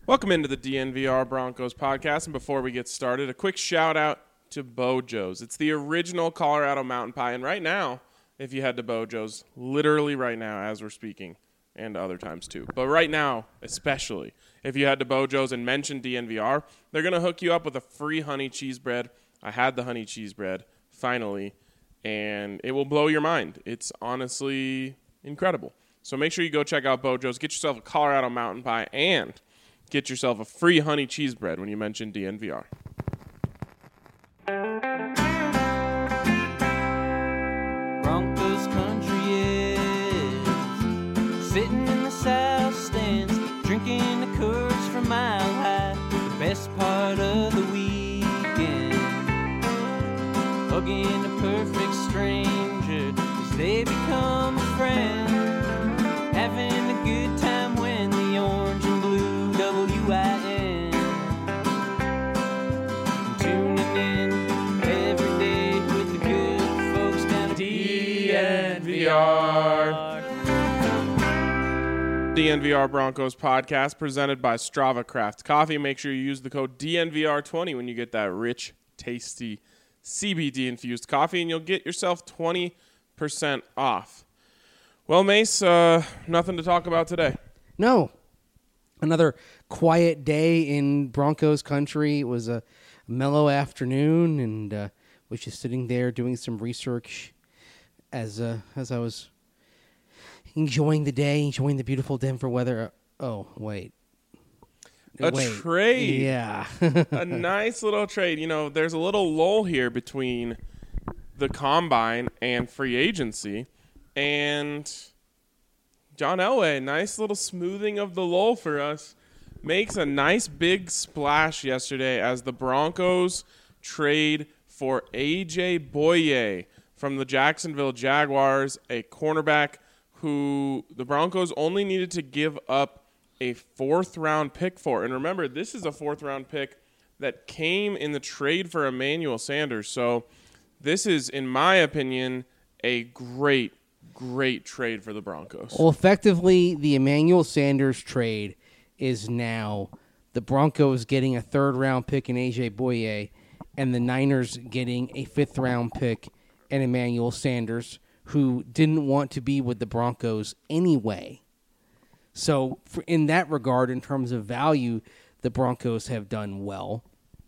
Welcome into the DNVR Broncos podcast, and before we get started, a quick shout out to Bojo's. It's the original Colorado mountain pie, and right now, if you head to Bojo's, literally right now as we're speaking, and other times too, but right now especially, if you head to Bojo's and mention DNVR, they're going to hook you up with a free honey cheese bread. I had the honey cheese bread, finally, and it will blow your mind. It's honestly incredible. So make sure you go check out Bojo's, get yourself a Colorado mountain pie, and get yourself a free honey cheese bread when you mention DNVR. Broncos country is sitting in the south stands, drinking the Coors from Mile High. The best part of the weekend, hugging a perfect stranger as they become a friend, having a good time when the orange and blue WIN. Tuning in every day with the good folks down at DNVR. DNVR Broncos podcast presented by Strava Craft Coffee. Make sure you use the code DNVR20 when you get that rich, tasty CBD-infused coffee, and you'll get yourself 20% off. Well, Mace, nothing to talk about today. No. Another quiet day in Broncos country. It was a mellow afternoon, and was just sitting there doing some research as I was enjoying the day, enjoying the beautiful Denver weather. Oh, wait. Trade. Yeah. A nice little trade. You know, there's a little lull here between the combine and free agency, and John Elway, nice little smoothing of the lull for us, makes a nice big splash yesterday as the Broncos trade for A.J. Bouye from the Jacksonville Jaguars, a cornerback who the Broncos only needed to give up a fourth-round pick for. And remember, this is a fourth-round pick that came in the trade for Emmanuel Sanders. So this is, in my opinion, a great trade for the Broncos. Well, effectively, the Emmanuel Sanders trade is now the Broncos getting a third-round pick in A.J. Bouye and the Niners getting a fifth-round pick in Emmanuel Sanders, who didn't want to be with the Broncos anyway. So in that regard, in terms of value, the Broncos have done well.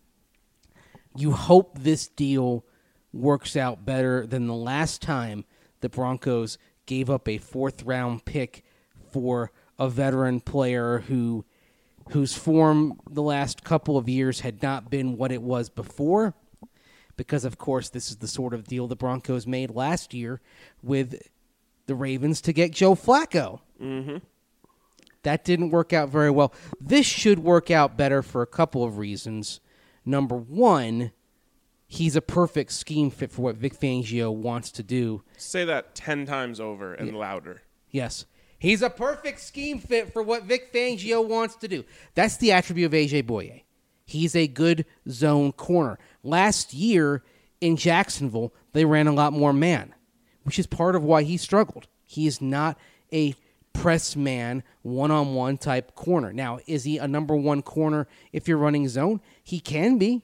You hope this deal works out better than the last time the Broncos gave up a fourth-round pick for a veteran player whose form the last couple of years had not been what it was before, because, of course, this is the sort of deal the Broncos made last year with the Ravens to get Joe Flacco. Mm-hmm. That didn't work out very well. This should work out better for a couple of reasons. Number one, he's a perfect scheme fit for what Vic Fangio wants to do. Say that 10 times over and louder. Yes. He's a perfect scheme fit for what Vic Fangio wants to do. That's the attribute of A.J. Bouye. He's a good zone corner. Last year in Jacksonville, they ran a lot more man, which is part of why he struggled. He is not a press man, one-on-one type corner. Now, is he a number one corner if you're running zone? He can be.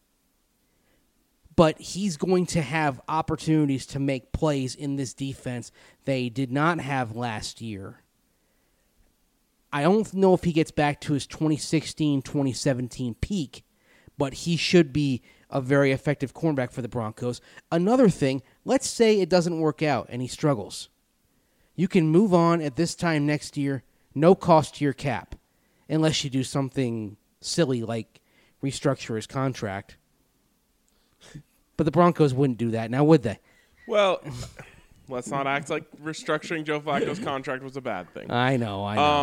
But he's going to have opportunities to make plays in this defense they did not have last year. I don't know if he gets back to his 2016, 2017 peak, but he should be a very effective cornerback for the Broncos. Another thing, let's say it doesn't work out and he struggles. You can move on at this time next year, no cost to your cap, unless you do something silly like restructure his contract. But the Broncos wouldn't do that, now would they? Well, let's not act like restructuring Joe Flacco's contract was a bad thing. I know.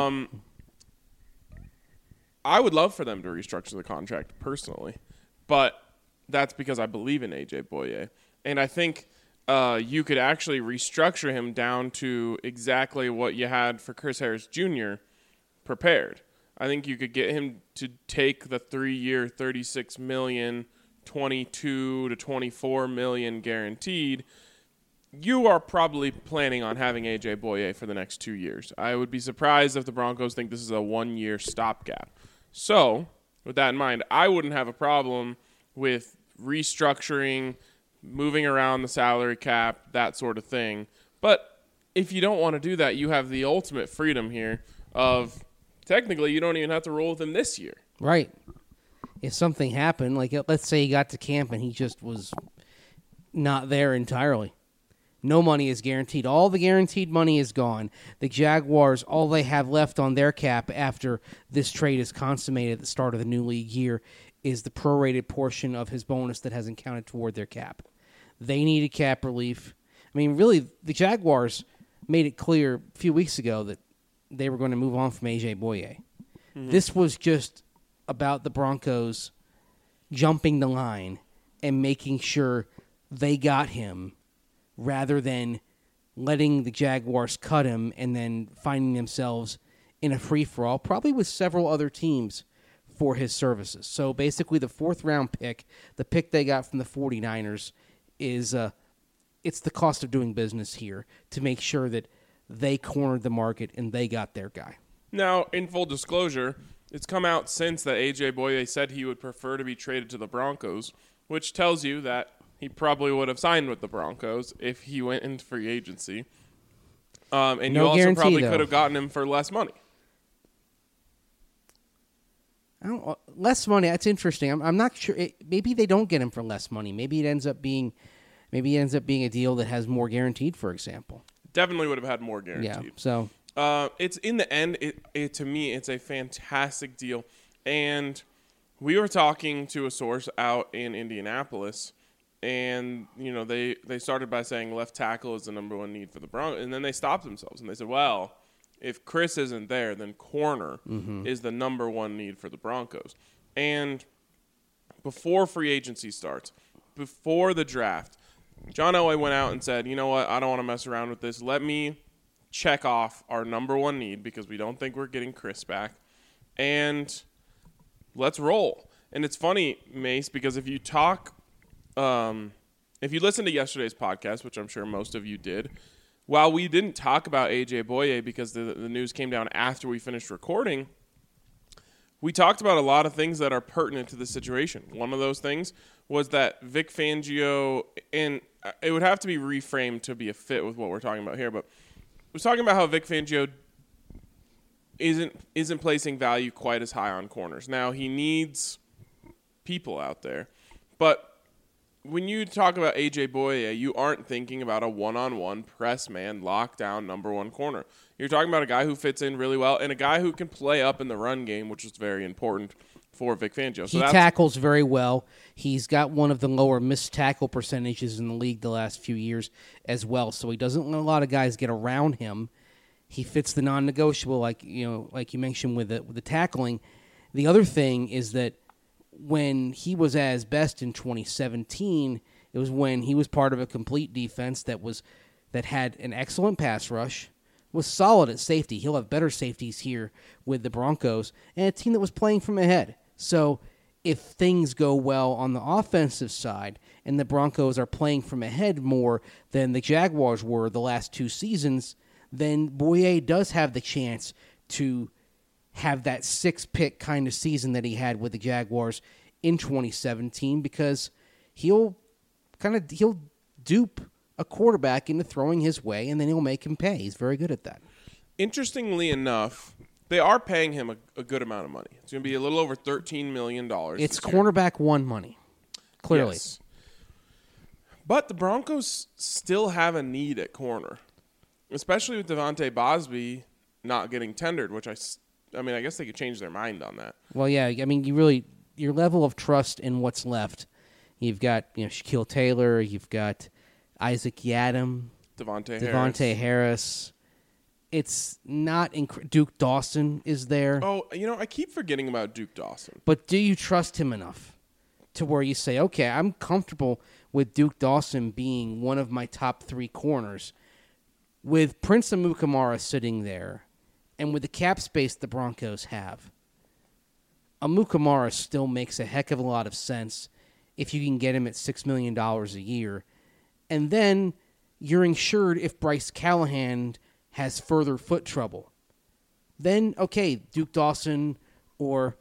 I would love for them to restructure the contract personally, but that's because I believe in A.J. Bouye. And I think you could actually restructure him down to exactly what you had for Chris Harris Jr. prepared. I think you could get him to take the 3-year, $36 million, $22 to $24 million guaranteed. You are probably planning on having A.J. Bouye for the next 2 years. I would be surprised if the Broncos think this is a 1-year stopgap. So, with that in mind, I wouldn't have a problem with restructuring, moving around the salary cap, that sort of thing. But if you don't want to do that, you have the ultimate freedom here of technically you don't even have to roll with him this year. Right. If something happened, like let's say he got to camp and he just was not there entirely. No money is guaranteed. All the guaranteed money is gone. The Jaguars, all they have left on their cap after this trade is consummated at the start of the new league year is the prorated portion of his bonus that hasn't counted toward their cap. They needed cap relief. I mean, really, the Jaguars made it clear a few weeks ago that they were going to move on from A.J. Boye. Mm-hmm. This was just about the Broncos jumping the line and making sure they got him rather than letting the Jaguars cut him and then finding themselves in a free-for-all, probably with several other teams for his services. So basically the fourth-round pick, the pick they got from the 49ers, is it's the cost of doing business here to make sure that they cornered the market and they got their guy. Now, in full disclosure, it's come out since that A.J. Boye said he would prefer to be traded to the Broncos, which tells you that he probably would have signed with the Broncos if he went into free agency. And no you also guarantee, probably though. could have gotten him for less money. Less money, that's interesting. I'm not sure. Maybe they don't get him for less money. Maybe it ends up being a deal that has more guaranteed, for example. Definitely would have had more guaranteed. Yeah, so it's in the end, it to me, it's a fantastic deal. And we were talking to a source out in Indianapolis, and they started by saying left tackle is the number one need for the Broncos, and then they stopped themselves and they said, well, if Chris isn't there, then corner is the number one need for the Broncos. And before free agency starts, before the draft, John Elway went out and said, you know what, I don't want to mess around with this. Let me check off our number one need because we don't think we're getting Chris back. And let's roll. And it's funny, Mace, because if you listen to yesterday's podcast, which I'm sure most of you did, while we didn't talk about A.J. Boye because the news came down after we finished recording, we talked about a lot of things that are pertinent to the situation. One of those things was that Vic Fangio, and it would have to be reframed to be a fit with what we're talking about here, but was talking about how Vic Fangio isn't placing value quite as high on corners. Now, he needs people out there, but when you talk about A.J. Boye, you aren't thinking about a one-on-one press man, lockdown number one corner. You're talking about a guy who fits in really well and a guy who can play up in the run game, which is very important for Vic Fangio. He tackles very well. He's got one of the lower missed tackle percentages in the league the last few years as well, so he doesn't let a lot of guys get around him. He fits the non-negotiable, like you mentioned with the tackling. The other thing is that when he was at his best in 2017, it was when he was part of a complete defense that had an excellent pass rush, was solid at safety. He'll have better safeties here with the Broncos, and a team that was playing from ahead. So if things go well on the offensive side and the Broncos are playing from ahead more than the Jaguars were the last two seasons, then Boye does have the chance to have that 6-pick kind of season that he had with the Jaguars in 2017 because he'll dupe a quarterback into throwing his way and then he'll make him pay. He's very good at that. Interestingly enough, they are paying him a good amount of money. It's going to be a little over $13 million. It's cornerback one money, clearly. Yes. But the Broncos still have a need at corner, especially with Devontae Bosby not getting tendered, which I guess they could change their mind on that. Well, yeah. I mean, your level of trust in what's left. You've got Shaquille Taylor. You've got Isaac Yiadom, Devontae Harris. It's not Duke Dawson is there. Oh, I keep forgetting about Duke Dawson. But do you trust him enough to where you say, okay, I'm comfortable with Duke Dawson being one of my top 3 corners, with Prince Amukamara sitting there, and with the cap space the Broncos have? Amukamara still makes a heck of a lot of sense if you can get him at $6 million a year. And then you're insured if Bryce Callahan has further foot trouble. Then, okay, Duke Dawson or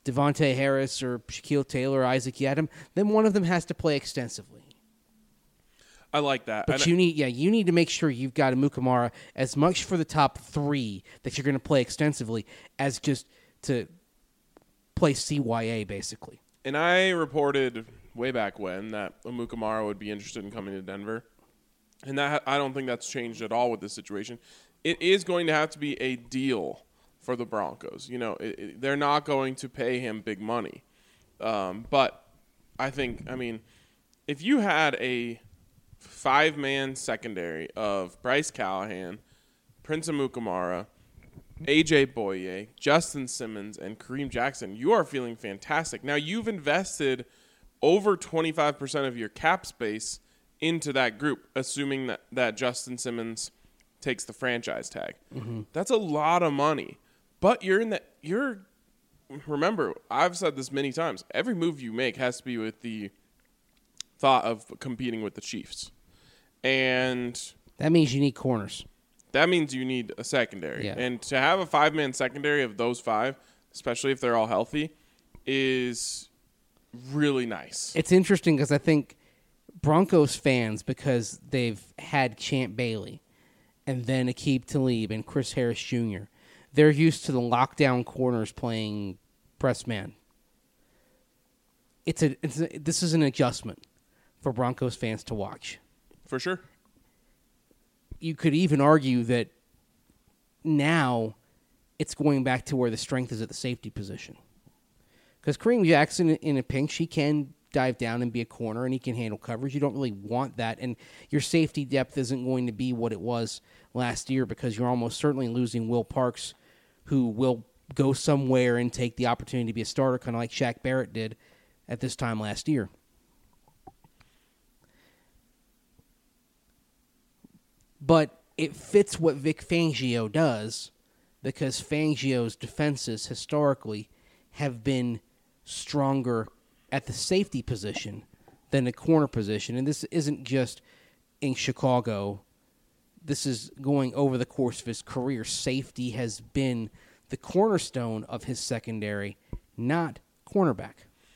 Devontae Harris or Shaquille Taylor or Isaac Yiadom, then one of them has to play extensively. I like that. But you need to make sure you've got a Mukamara as much for the top 3 that you're going to play extensively as just to play CYA, basically. And I reported way back when that Mukamara would be interested in coming to Denver. And that I don't think that's changed at all with this situation. It is going to have to be a deal for the Broncos. They're not going to pay him big money. But I think, if you had a 5-man secondary of Bryce Callahan, Prince Amukamara, AJ Boye, Justin Simmons, and Kareem Jackson, you are feeling fantastic. Now, you've invested over 25% of your cap space into that group, assuming that Justin Simmons takes the franchise tag. Mm-hmm. That's a lot of money. But remember, I've said this many times, every move you make has to be with the thought of competing with the Chiefs. And that means you need corners. That means you need a secondary. Yeah. And to have a 5-man secondary of those 5, especially if they're all healthy, is really nice. It's interesting because I think Broncos fans, because they've had Champ Bailey and then Aqib Talib and Chris Harris Jr., they're used to the lockdown corners playing press man. This is an adjustment for Broncos fans to watch. For sure. You could even argue that now it's going back to where the strength is at the safety position. Because Kareem Jackson, in a pinch, he can dive down and be a corner, and he can handle coverage. You don't really want that. And your safety depth isn't going to be what it was last year because you're almost certainly losing Will Parks, who will go somewhere and take the opportunity to be a starter, kind of like Shaq Barrett did at this time last year. But it fits what Vic Fangio does because Fangio's defenses historically have been stronger at the safety position than the corner position. And this isn't just in Chicago. This is going over the course of his career. Safety has been the cornerstone of his secondary, not cornerback.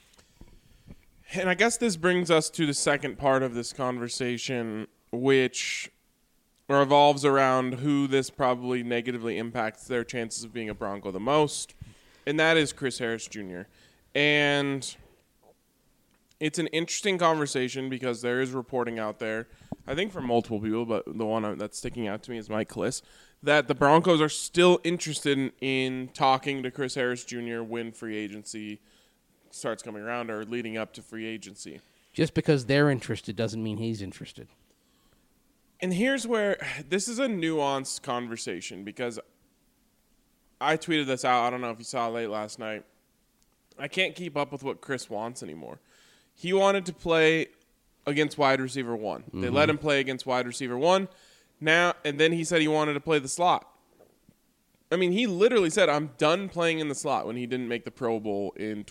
And I guess this brings us to the second part of this conversation, which revolves around who this probably negatively impacts their chances of being a Bronco the most, and that is Chris Harris Jr. And it's an interesting conversation because there is reporting out there, I think from multiple people, but the one that's sticking out to me is Mike Kliss, that the Broncos are still interested in talking to Chris Harris Jr. when free agency starts coming around or leading up to free agency. Just because they're interested doesn't mean he's interested. And here's where this is a nuanced conversation because I tweeted this out. I don't know if you saw it late last night. I can't keep up with what Chris wants anymore. He wanted to play against wide receiver 1. Mm-hmm. They let him play against wide receiver 1. Now and then he said he wanted to play the slot. I mean, he literally said, "I'm done playing in the slot" when he didn't make the Pro Bowl in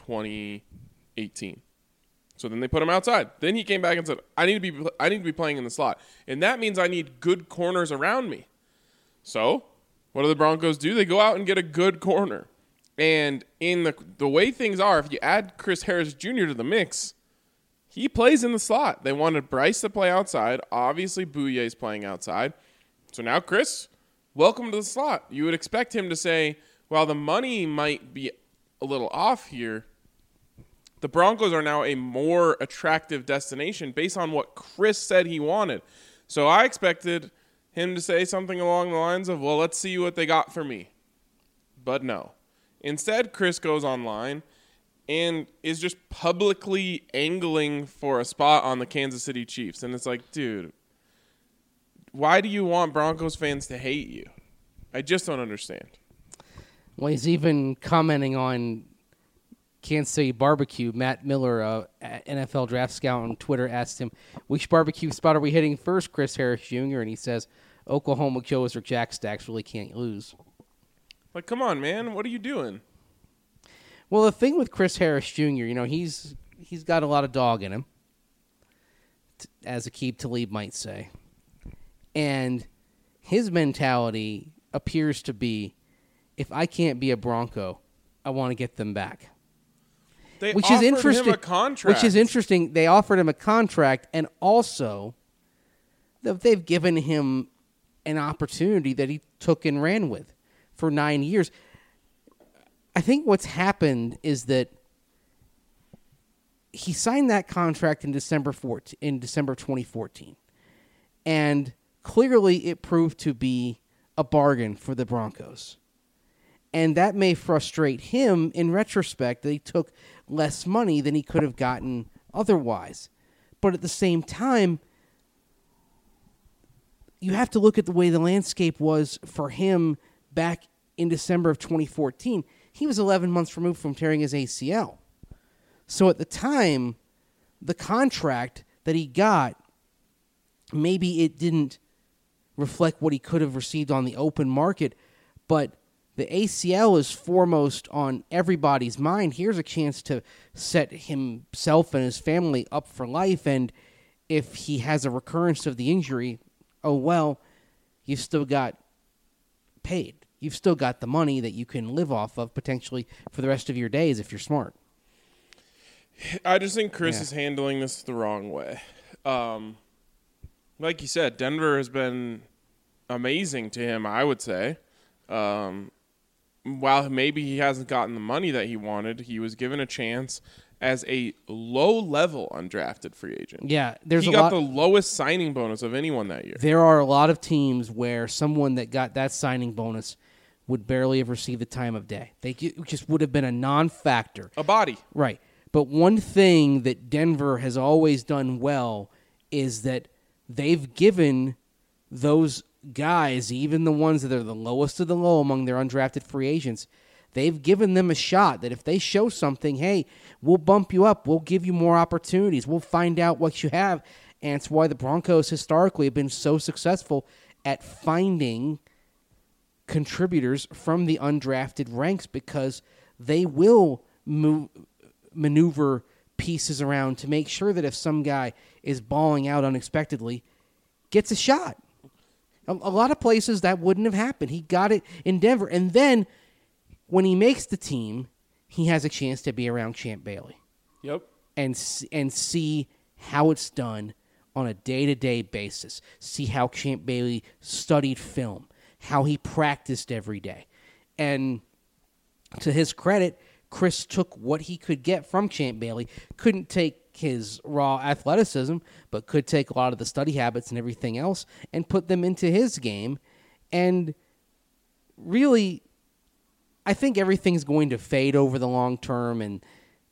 2018. So then they put him outside. Then he came back and said, I need to be playing in the slot. And that means I need good corners around me. So what do the Broncos do? They go out and get a good corner. And in the way things are, if you add Chris Harris Jr. to the mix, he plays in the slot. They wanted Bryce to play outside. Obviously, Bouye's playing outside. So now, Chris, welcome to the slot. You would expect him to say, well, the money might be a little off here. The Broncos are now a more attractive destination based on what Chris said he wanted. So I expected him to say something along the lines of, well, let's see what they got for me. But no. Instead, Chris goes online and is just publicly angling for a spot on the Kansas City Chiefs. And it's like, dude, why do you want Broncos fans to hate you? I just don't understand. Well, he's even commenting on Kansas City Barbecue. Matt Miller, NFL Draft Scout on Twitter, asked him, which barbecue spot are we hitting first, Chris Harris Jr.? And he says, Oklahoma Joe's or Jack Stacks really can't lose. Like, come on, man. What are you doing? Well, the thing with Chris Harris Jr., he's got a lot of dog in him, as Aqib Talib might say. And his mentality appears to be, if I can't be a Bronco, I want to get them back. They which offered is interesting. him a contract. Which is interesting. They offered him a contract, and also they've given him an opportunity that he took and ran with for 9 years. I think what's happened is that he signed that contract in December 2014, and clearly it proved to be a bargain for the Broncos. And that may frustrate him in retrospect that he took less money than he could have gotten otherwise. But at the same time, you have to look at the way the landscape was for him back in December of 2014. He was 11 months removed from tearing his ACL. So at the time, the contract that he got, maybe it didn't reflect what he could have received on the open market, but the ACL is foremost on everybody's mind. Here's a chance to set himself and his family up for life, and if he has a recurrence of the injury, oh well, you've still got paid. You've still got the money that you can live off of potentially for the rest of your days if you're smart. I just think Chris is handling this the wrong way. Like you said, Denver has been amazing to him, I would say. While maybe he hasn't gotten the money that he wanted, he was given a chance as a low-level undrafted free agent. Yeah, he got the lowest signing bonus of anyone that year. There are a lot of teams where someone that got that signing bonus would barely have received the time of day. They just would have been a non-factor. A body. Right. But one thing that Denver has always done well is that they've given those guys, even the ones that are the lowest of the low among their undrafted free agents, they've given them a shot that if they show something, hey, we'll bump you up, we'll give you more opportunities, we'll find out what you have. And it's why the Broncos historically have been so successful at finding contributors from the undrafted ranks, because they will maneuver pieces around to make sure that if some guy is balling out unexpectedly, gets a shot. A lot of places that wouldn't have happened. He got it in Denver. And then when he makes the team, he has a chance to be around Champ Bailey. Yep. And see how it's done on a day-to-day basis. See how Champ Bailey studied film, how he practiced every day. And to his credit, Chris took what he could get from Champ Bailey, couldn't take his raw athleticism, but could take a lot of the study habits and everything else and put them into his game. And really, I think everything's going to fade over the long term. And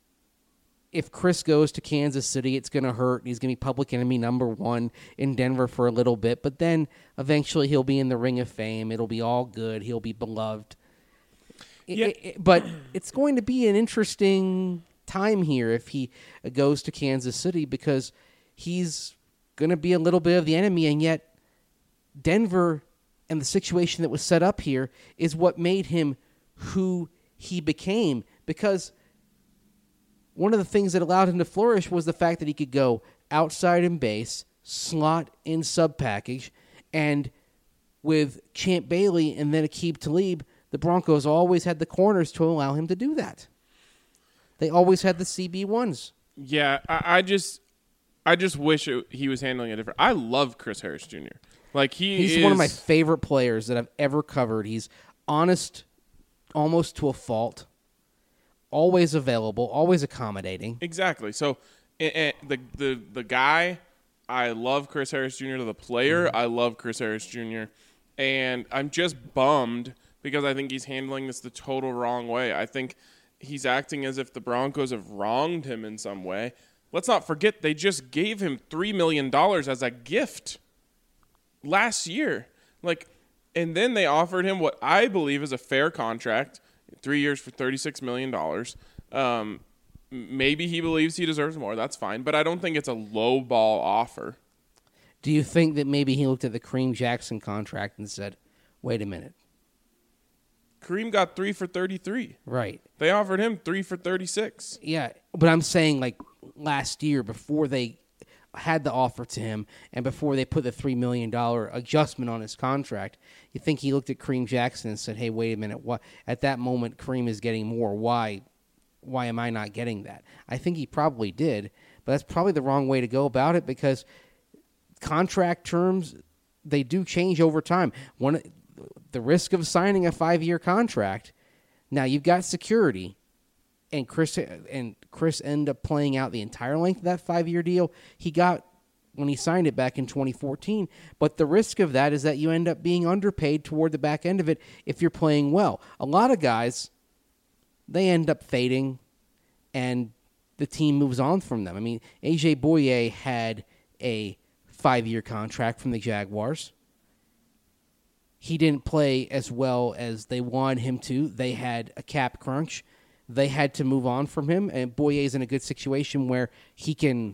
if Chris goes to Kansas City, it's going to hurt. He's going to be public enemy number one in Denver for a little bit, but then eventually he'll be in the Ring of Fame. It'll be all good. He'll be beloved. Yeah. But it's going to be an interesting time here if he goes to Kansas City, because he's going to be a little bit of the enemy, and yet Denver and the situation that was set up here is what made him who he became, because one of the things that allowed him to flourish was the fact that he could go outside in base, slot in sub package, and with Champ Bailey and then Aqib Talib, the Broncos always had the corners to allow him to do that. They always had the CB1s. Yeah, I just wish he was handling it different. I love Chris Harris Jr. He's one of my favorite players that I've ever covered. He's honest, almost to a fault, always available, always accommodating. Exactly. So the guy, I love Chris Harris Jr. The player, I love Chris Harris Jr. And I'm just bummed because I think he's handling this the total wrong way. I think he's acting as if the Broncos have wronged him in some way. Let's not forget they just gave him $3 million as a gift last year. And then they offered him what I believe is a fair contract, 3 years for $36 million. Maybe he believes he deserves more. That's fine. But I don't think it's a low ball offer. Do you think that maybe he looked at the Kareem Jackson contract and said, wait a minute? Kareem got 3 for 33. Right. They offered him 3 for 36. Yeah, but I'm saying last year before they had the offer to him and before they put the $3 million adjustment on his contract, you think he looked at Kareem Jackson and said, hey, wait a minute. What? At that moment, Kareem is getting more. Why why am I not getting that? I think he probably did, but that's probably the wrong way to go about it because contract terms, they do change over time. The risk of signing a 5-year contract, now you've got security, and Chris ended up playing out the entire length of that 5-year deal he got when he signed it back in 2014. But the risk of that is that you end up being underpaid toward the back end of it if you're playing well. A lot of guys, they end up fading, and the team moves on from them. I mean, AJ Bouye had a 5-year contract from the Jaguars. He didn't play as well as they wanted him to. They had a cap crunch. They had to move on from him, and Bouye is in a good situation where he can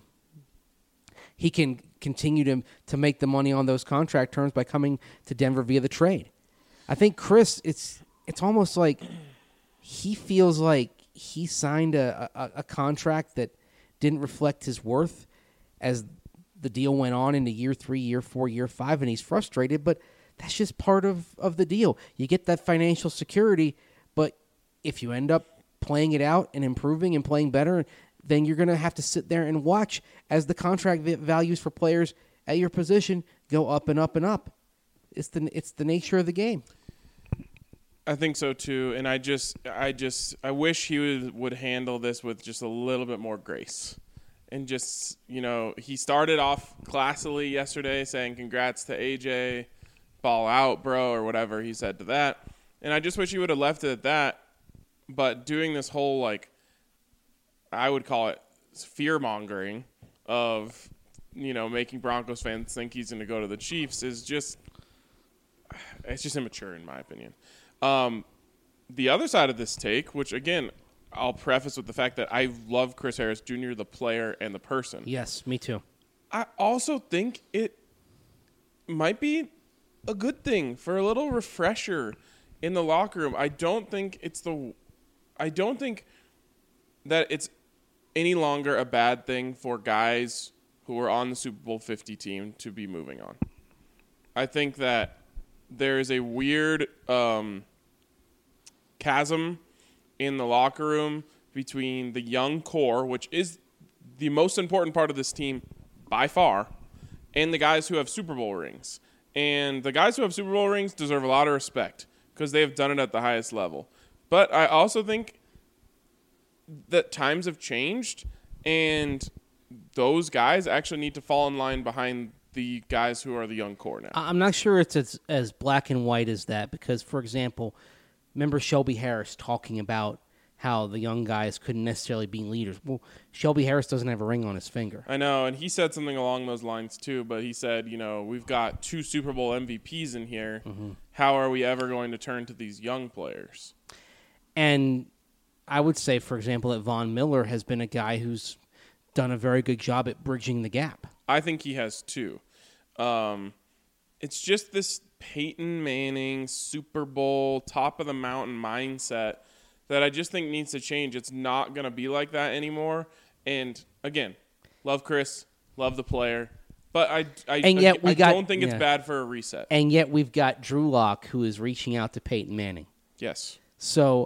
continue to make the money on those contract terms by coming to Denver via the trade. I think Chris, it's almost like he feels like he signed a contract that didn't reflect his worth as the deal went on into year 3, year 4, year 5, and he's frustrated, but that's just part of the deal. You get that financial security, but if you end up playing it out and improving and playing better, then you're going to have to sit there and watch as the contract values for players at your position go up and up and up. It's the nature of the game. I think so too, and I wish he would handle this with just a little bit more grace. And just, he started off classily yesterday saying congrats to AJ, ball out, bro, or whatever he said to that. And I just wish he would have left it at that. But doing this whole, I would call it fear-mongering of, making Broncos fans think he's going to go to the Chiefs is just – it's just immature in my opinion. The other side of this take, which, again, I'll preface with the fact that I love Chris Harris Jr., the player and the person. Yes, me too. I also think it might be a good thing for a little refresher in the locker room. I don't think that it's any longer a bad thing for guys who are on the Super Bowl 50 team to be moving on. I think that there is a weird chasm in the locker room between the young core, which is the most important part of this team by far, and the guys who have Super Bowl rings. And the guys who have Super Bowl rings deserve a lot of respect because they have done it at the highest level. But I also think that times have changed, and those guys actually need to fall in line behind the guys who are the young core now. I'm not sure it's as black and white as that because, for example, remember Shelby Harris talking about how the young guys couldn't necessarily be leaders. Well, Shelby Harris doesn't have a ring on his finger. I know, and he said something along those lines too, but he said, we've got 2 Super Bowl MVPs in here. Mm-hmm. How are we ever going to turn to these young players? And I would say, for example, that Von Miller has been a guy who's done a very good job at bridging the gap. I think he has too. It's just this Peyton Manning Super Bowl top of the mountain mindset that I just think needs to change. It's not going to be like that anymore. And again, love Chris, love the player, but I don't think it's bad for a reset. And yet we've got Drew Lock who is reaching out to Peyton Manning. Yes. So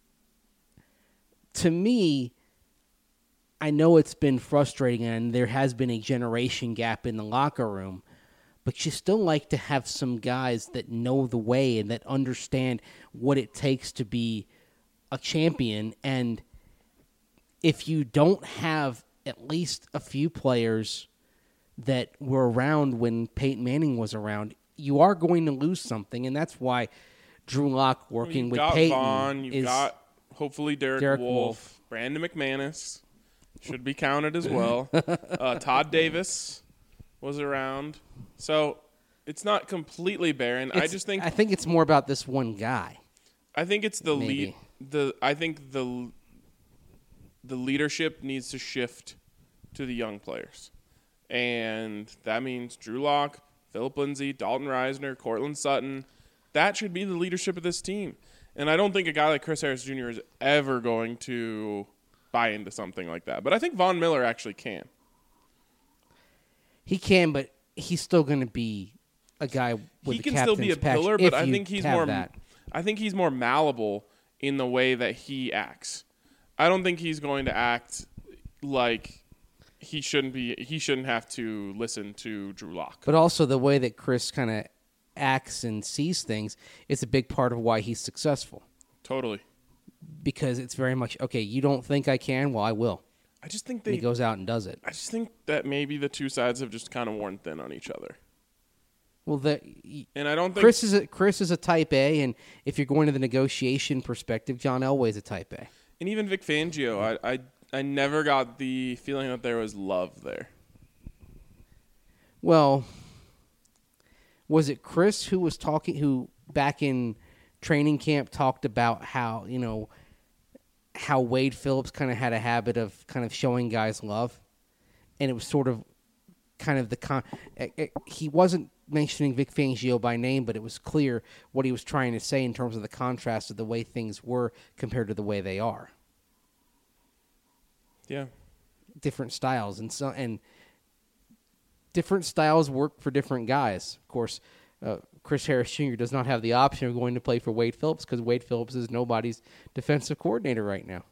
to me, I know it's been frustrating and there has been a generation gap in the locker room, but you still like to have some guys that know the way and that understand what it takes to be a champion. And if you don't have at least a few players that were around when Peyton Manning was around, you are going to lose something. And that's why Drew Lock working with Peyton Vaughn, you've got hopefully Derek Wolfe. Brandon McManus should be counted as well. Todd Davis was around. So it's not completely barren. I think it's more about this one guy. I think it's the lead. I think the leadership needs to shift to the young players. And that means Drew Lock, Phillip Lindsay, Dalton Reisner, Cortland Sutton. That should be the leadership of this team. And I don't think a guy like Chris Harris Jr. is ever going to buy into something like that. But I think Von Miller actually can. He can, but he's still going to be a guy with he can still be a pillar, but I think he's more. That. I think he's more malleable in the way that he acts. I don't think he's going to act like he shouldn't have to listen to Drew Lock. But also the way that Chris kind of acts and sees things is a big part of why he's successful. Totally. Because it's very much, okay, you don't think I can? Well, I will. I just think And he goes out and does it. I just think that maybe the two sides have just kind of worn thin on each other. Well, and I don't think Chris is a type A, and if you're going to the negotiation perspective, John Elway's a type A. And even Vic Fangio, I never got the feeling that there was love there. Well, was it Chris who back in training camp talked about how Wade Phillips kind of had a habit of kind of showing guys love, and it was sort of kind of he wasn't mentioning Vic Fangio by name, but it was clear what he was trying to say in terms of the contrast of the way things were compared to the way they are. Yeah. Different styles, and different styles work for different guys. Of course, Chris Harris Jr. does not have the option of going to play for Wade Phillips because Wade Phillips is nobody's defensive coordinator right now.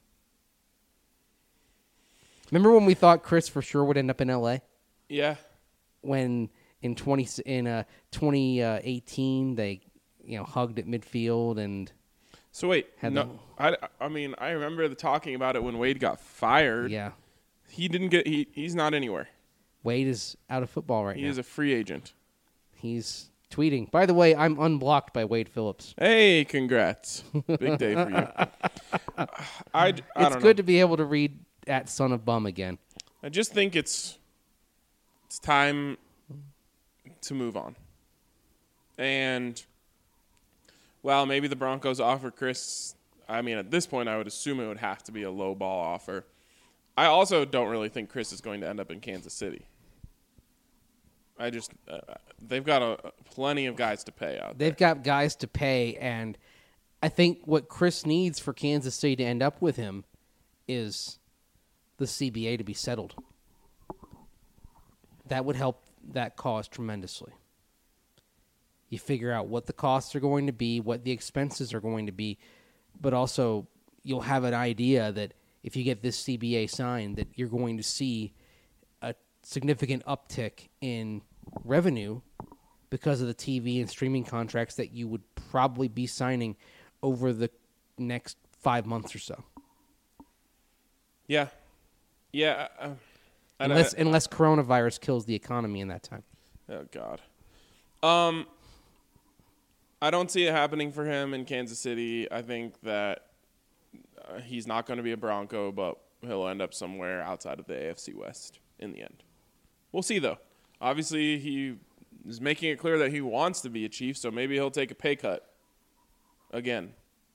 Remember when we thought Chris for sure would end up in L.A.? Yeah. When in 2018 they hugged at midfield and. So wait, no, I mean I remember talking about it when Wade got fired. Yeah. He didn't get he's not anywhere. Wade is out of football right now. He is a free agent. He's tweeting. By the way, I'm unblocked by Wade Phillips. Hey, congrats. Big day for you. I don't know. It's good to be able to read at Son of Bum again. I just think it's time to move on. And well, maybe the Broncos offer Chris. I mean, at this point, I would assume it would have to be a low ball offer. I also don't really think Chris is going to end up in Kansas City. I just they've got plenty of guys to pay out there. They've got guys to pay, and I think what Chris needs for Kansas City to end up with him is the CBA to be settled. That would help that cause tremendously. You figure out what the costs are going to be, what the expenses are going to be, but also you'll have an idea that if you get this CBA signed, that you're going to see a significant uptick in revenue because of the TV and streaming contracts that you would probably be signing over the next 5 months or so. Yeah. Yeah. Unless coronavirus kills the economy in that time. Oh, God. I don't see it happening for him in Kansas City. I think that he's not going to be a Bronco, but he'll end up somewhere outside of the AFC West in the end. We'll see, though. Obviously, he is making it clear that he wants to be a Chief, so maybe he'll take a pay cut again.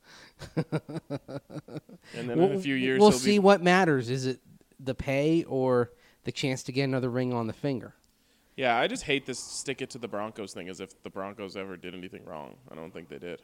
And then in a few years, we'll see what matters. Is it the pay or the chance to get another ring on the finger? Yeah, I just hate this stick it to the Broncos thing as if the Broncos ever did anything wrong. I don't think they did.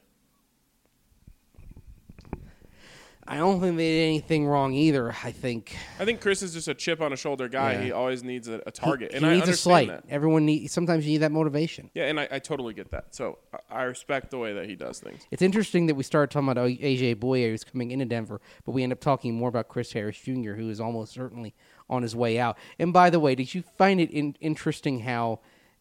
I don't think they did anything wrong either. I think Chris is just a chip on a shoulder guy. Yeah. He always needs a target. He needs a slight. That. Sometimes you need that motivation. Yeah, and I totally get that. So I respect the way that he does things. It's interesting that we started talking about AJ Bouye, who's coming into Denver, but we end up talking more about Chris Harris Jr., who is almost certainly on his way out. And by the way, did you find it interesting how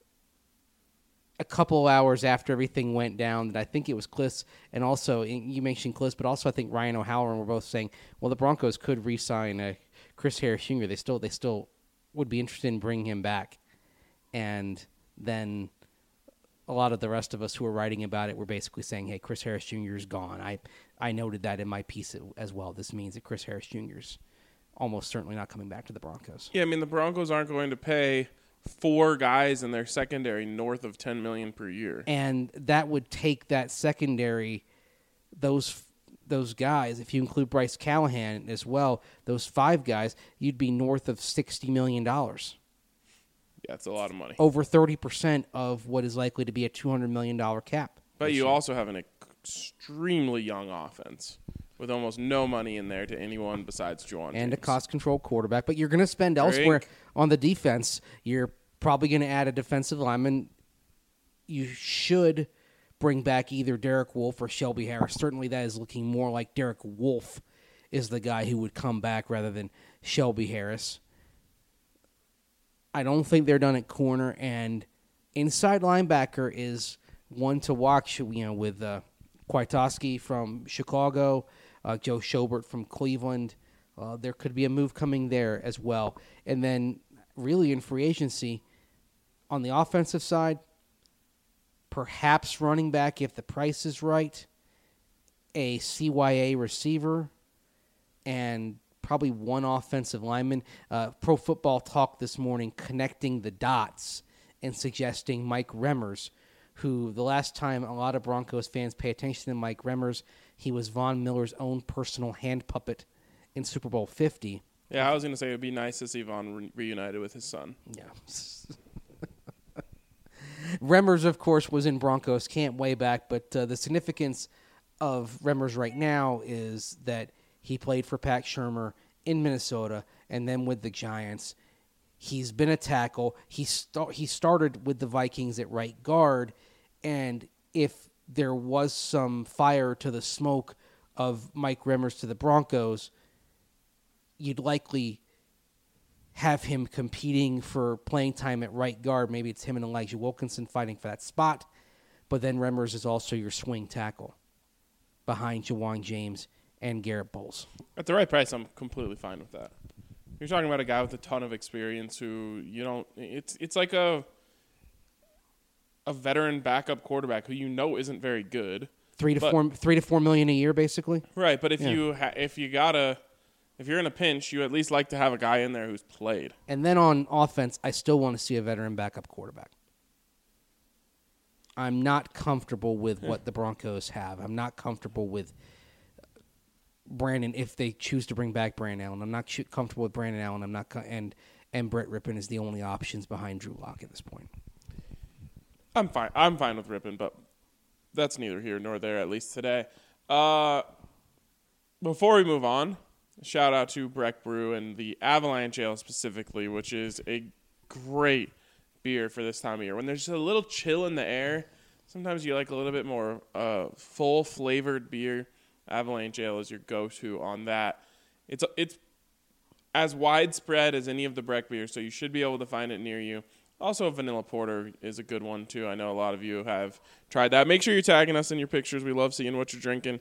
a couple hours after everything went down that I think it was Kliss, and also you mentioned Kliss, but also I think Ryan O'Halloran were both saying, well, the Broncos could re-sign Chris Harris Jr. They still would be interested in bringing him back. And then a lot of the rest of us who were writing about it were basically saying, hey, Chris Harris Jr. is gone. I noted that in my piece as well. This means that Chris Harris Jr. is almost certainly not coming back to the Broncos. Yeah, I mean, the Broncos aren't going to pay 4 guys in their secondary north of $10 million per year. And that would take that secondary, those guys, if you include Bryce Callahan as well, those 5 guys, you'd be north of $60 million. Yeah, it's a lot of money. Over 30% of what is likely to be a $200 million cap. But you also have an extremely young offense with almost no money in there to anyone besides Juwan and James. A cost-control quarterback. But you're going to spend elsewhere on the defense. You're probably going to add a defensive lineman. You should bring back either Derek Wolfe or Shelby Harris. Certainly that is looking more like Derek Wolfe is the guy who would come back rather than Shelby Harris. I don't think they're done at corner, and inside linebacker is one to watch, with Kwiatkowski from Chicago, Joe Schobert from Cleveland. There could be a move coming there as well. And then really in free agency, on the offensive side, perhaps running back if the price is right, a CYA receiver, and probably one offensive lineman. Pro Football Talk this morning connecting the dots and suggesting Mike Remmers, who the last time a lot of Broncos fans pay attention to Mike Remmers, he was Von Miller's own personal hand puppet in Super Bowl 50. Yeah, I was going to say it would be nice to see Von reunited with his son. Yeah. Remmers, of course, was in Broncos camp way back, but the significance of Remmers right now is that he played for Pat Shurmur in Minnesota and then with the Giants. He's been a tackle. He started with the Vikings at right guard, and if there was some fire to the smoke of Mike Remmers to the Broncos, you'd likely have him competing for playing time at right guard. Maybe it's him and Elijah Wilkinson fighting for that spot, but then Remmers is also your swing tackle behind Jawan James and Garrett Bowles. At the right price, I'm completely fine with that. You're talking about a guy with a ton of experience who it's like a veteran backup quarterback who isn't very good. $3 to $4 million a year, basically. Right, but if you're in a pinch, you at least like to have a guy in there who's played. And then on offense, I still want to see a veteran backup quarterback. I'm not comfortable with what the Broncos have. I'm not comfortable with Brandon if they choose to bring back Brandon Allen. I'm not comfortable with Brandon Allen. I'm not, and Brett Rippon is the only options behind Drew Lock at this point. I'm fine. I'm fine with Rippon, but that's neither here nor there, at least today. Before we move on, shout out to Breck Brew and the Avalanche Ale specifically, which is a great beer for this time of year. When there's a little chill in the air, sometimes you like a little bit more full-flavored beer. Avalanche Ale is your go-to on that. It's as widespread as any of the Breck beers, so you should be able to find it near you. Also, Vanilla Porter is a good one, too. I know a lot of you have tried that. Make sure you're tagging us in your pictures. We love seeing what you're drinking.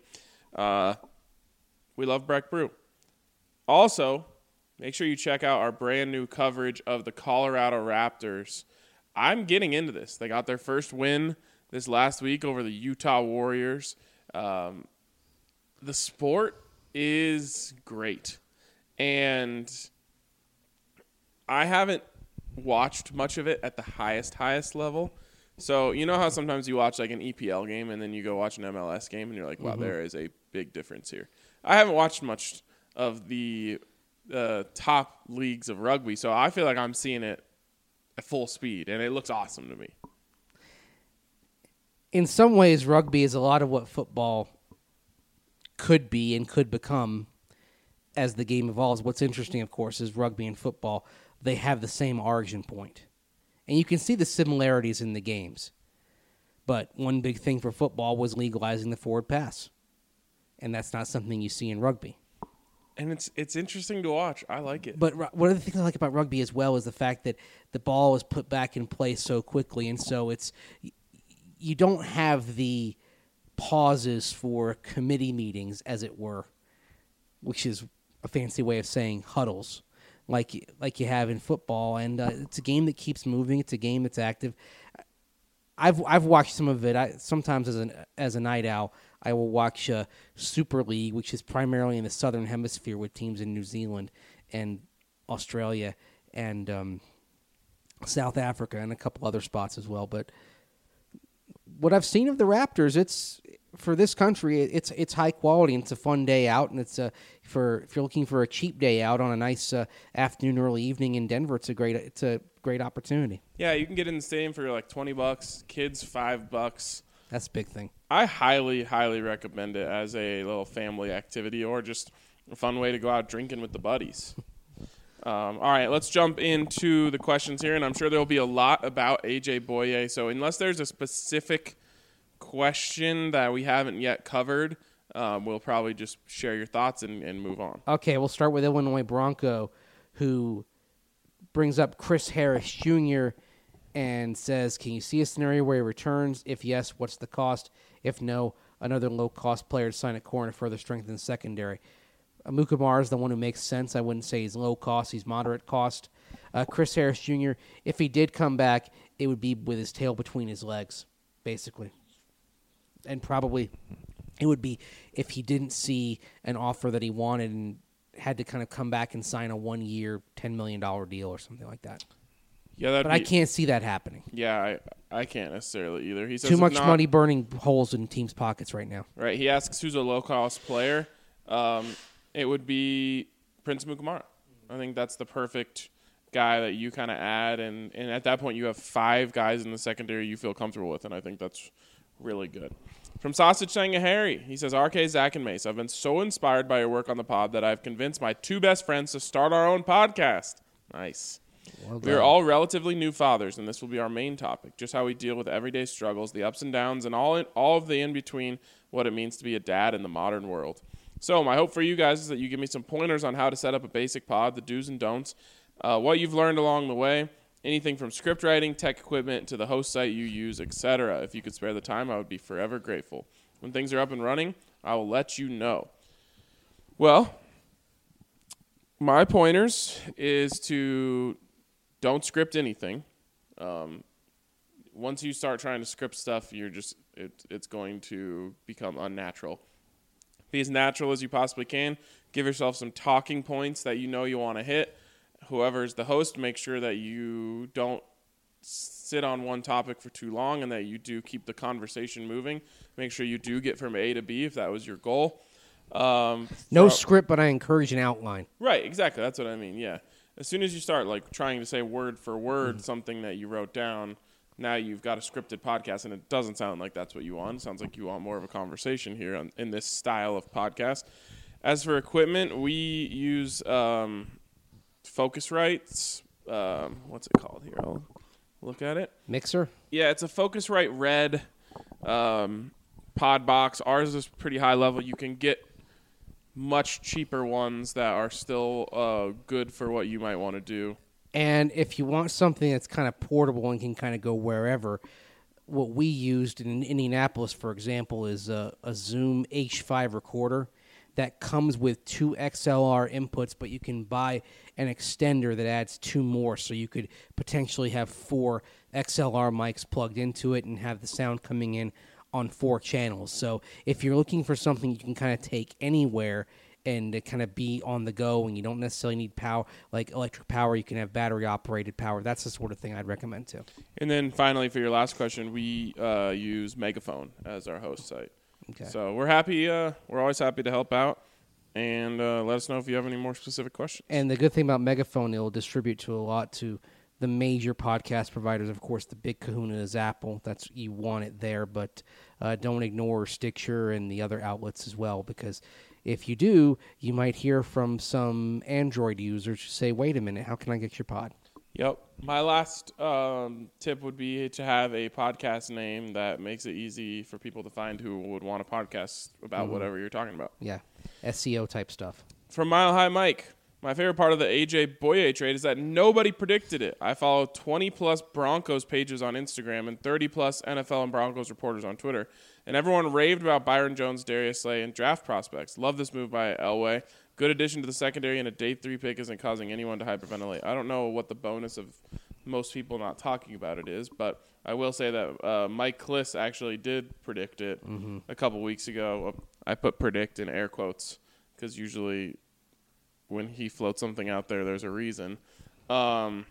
We love Breck Brew. Also, make sure you check out our brand new coverage of the Colorado Raptors. I'm getting into this. They got their first win this last week over the Utah Warriors. The sport is great. And I haven't watched much of it at the highest level. So you know how sometimes you watch like an EPL game and then you go watch an MLS game and you're like, wow, there is a big difference here. I haven't watched much of the top leagues of rugby, so I feel like I'm seeing it at full speed, and it looks awesome to me. In some ways, rugby is a lot of what football could be and could become as the game evolves. What's interesting, of course, is rugby and football, they have the same origin point. And you can see the similarities in the games. But one big thing for football was legalizing the forward pass. And that's not something you see in rugby. And it's interesting to watch. I like it. But one of the things I like about rugby as well is the fact that the ball is put back in place so quickly. And so you don't have the pauses for committee meetings, as it were, which is a fancy way of saying huddles, like you have in football. And it's a game that keeps moving. It's a game that's active. I've watched some of it. Sometimes as a night owl, I will watch Super League, which is primarily in the Southern Hemisphere with teams in New Zealand and Australia and South Africa and a couple other spots as well. But what I've seen of the Raptors, it's for this country, it's high quality and it's a fun day out, and it's if you're looking for a cheap day out on a nice afternoon, early evening in Denver, it's a great opportunity. Yeah, you can get in the stadium for like $20, kids $5. That's a big thing. I highly, highly recommend it as a little family activity or just a fun way to go out drinking with the buddies. All right, let's jump into the questions here, and I'm sure there will be a lot about A.J. Bouye. So unless there's a specific question that we haven't yet covered, we'll probably just share your thoughts and move on. Okay, we'll start with Illinois Bronco, who brings up Chris Harris Jr. and says, can you see a scenario where he returns? If yes, what's the cost? If no, another low-cost player to sign at corner to further strengthen the secondary. Mukamara is the one who makes sense. I wouldn't say he's low cost. He's moderate cost. Chris Harris Jr., if he did come back, it would be with his tail between his legs, basically. And probably it would be if he didn't see an offer that he wanted and had to kind of come back and sign a 1-year, $10 million deal or something like that. Yeah, but I can't see that happening. Yeah, I can't necessarily either. He says too much money burning holes in teams' pockets right now. Right. He asks who's a low-cost player. It would be Prince Mukamara. I think that's the perfect guy that you kind of add, and at that point you have 5 guys in the secondary you feel comfortable with, and I think that's really good. From Sausage Sanga Harry, he says, RK, Zach, and Mace, I've been so inspired by your work on the pod that I've convinced my 2 best friends to start our own podcast. Nice. Well, we are all relatively new fathers, and this will be our main topic, just how we deal with everyday struggles, the ups and downs, and all of the in-between, what it means to be a dad in the modern world. So my hope for you guys is that you give me some pointers on how to set up a basic pod, the do's and don'ts, what you've learned along the way, anything from script writing, tech equipment, to the host site you use, etc. If you could spare the time, I would be forever grateful. When things are up and running, I will let you know. Well, my pointers is to don't script anything. Once you start trying to script stuff, it's going to become unnatural. Be as natural as you possibly can. Give yourself some talking points that you know you want to hit. Whoever's the host, make sure that you don't sit on one topic for too long and that you do keep the conversation moving. Make sure you do get from A to B if that was your goal. No script, but I encourage an outline. Right, exactly. That's what I mean, yeah. As soon as you start like trying to say word for word something that you wrote down, now you've got a scripted podcast, and it doesn't sound like that's what you want. It sounds like you want more of a conversation here in this style of podcast. As for equipment, we use Focusrite's, what's it called here? I'll look at it. Mixer? Yeah, it's a Focusrite Red pod box. Ours is pretty high level. You can get much cheaper ones that are still good for what you might want to do. And if you want something that's kind of portable and can kind of go wherever, what we used in Indianapolis, for example, is a Zoom H5 recorder that comes with 2 XLR inputs, but you can buy an extender that adds 2 more, so you could potentially have 4 XLR mics plugged into it and have the sound coming in on 4 channels. So if you're looking for something you can kind of take anywhere and to kind of be on the go, and you don't necessarily need power, like electric power, you can have battery-operated power. That's the sort of thing I'd recommend, too. And then finally, for your last question, we use Megaphone as our host site. Okay. So we're happy. We're always happy to help out, and let us know if you have any more specific questions. And the good thing about Megaphone, it'll distribute to the major podcast providers. Of course, the big kahuna is Apple. You want it there, but don't ignore Stitcher and the other outlets as well, because if you do, you might hear from some Android users who say, wait a minute, how can I get your pod? Yep. My last tip would be to have a podcast name that makes it easy for people to find who would want a podcast about whatever you're talking about. Yeah, SEO type stuff. From Mile High Mike, my favorite part of the AJ Boye trade is that nobody predicted it. I follow 20-plus Broncos pages on Instagram and 30-plus NFL and Broncos reporters on Twitter, and everyone raved about Byron Jones, Darius Slay, and draft prospects. Love this move by Elway. Good addition to the secondary, and a day 3 pick isn't causing anyone to hyperventilate. I don't know what the bonus of most people not talking about it is, but I will say that Mike Kliss actually did predict it a couple weeks ago. I put predict in air quotes because usually when he floats something out there, there's a reason. But,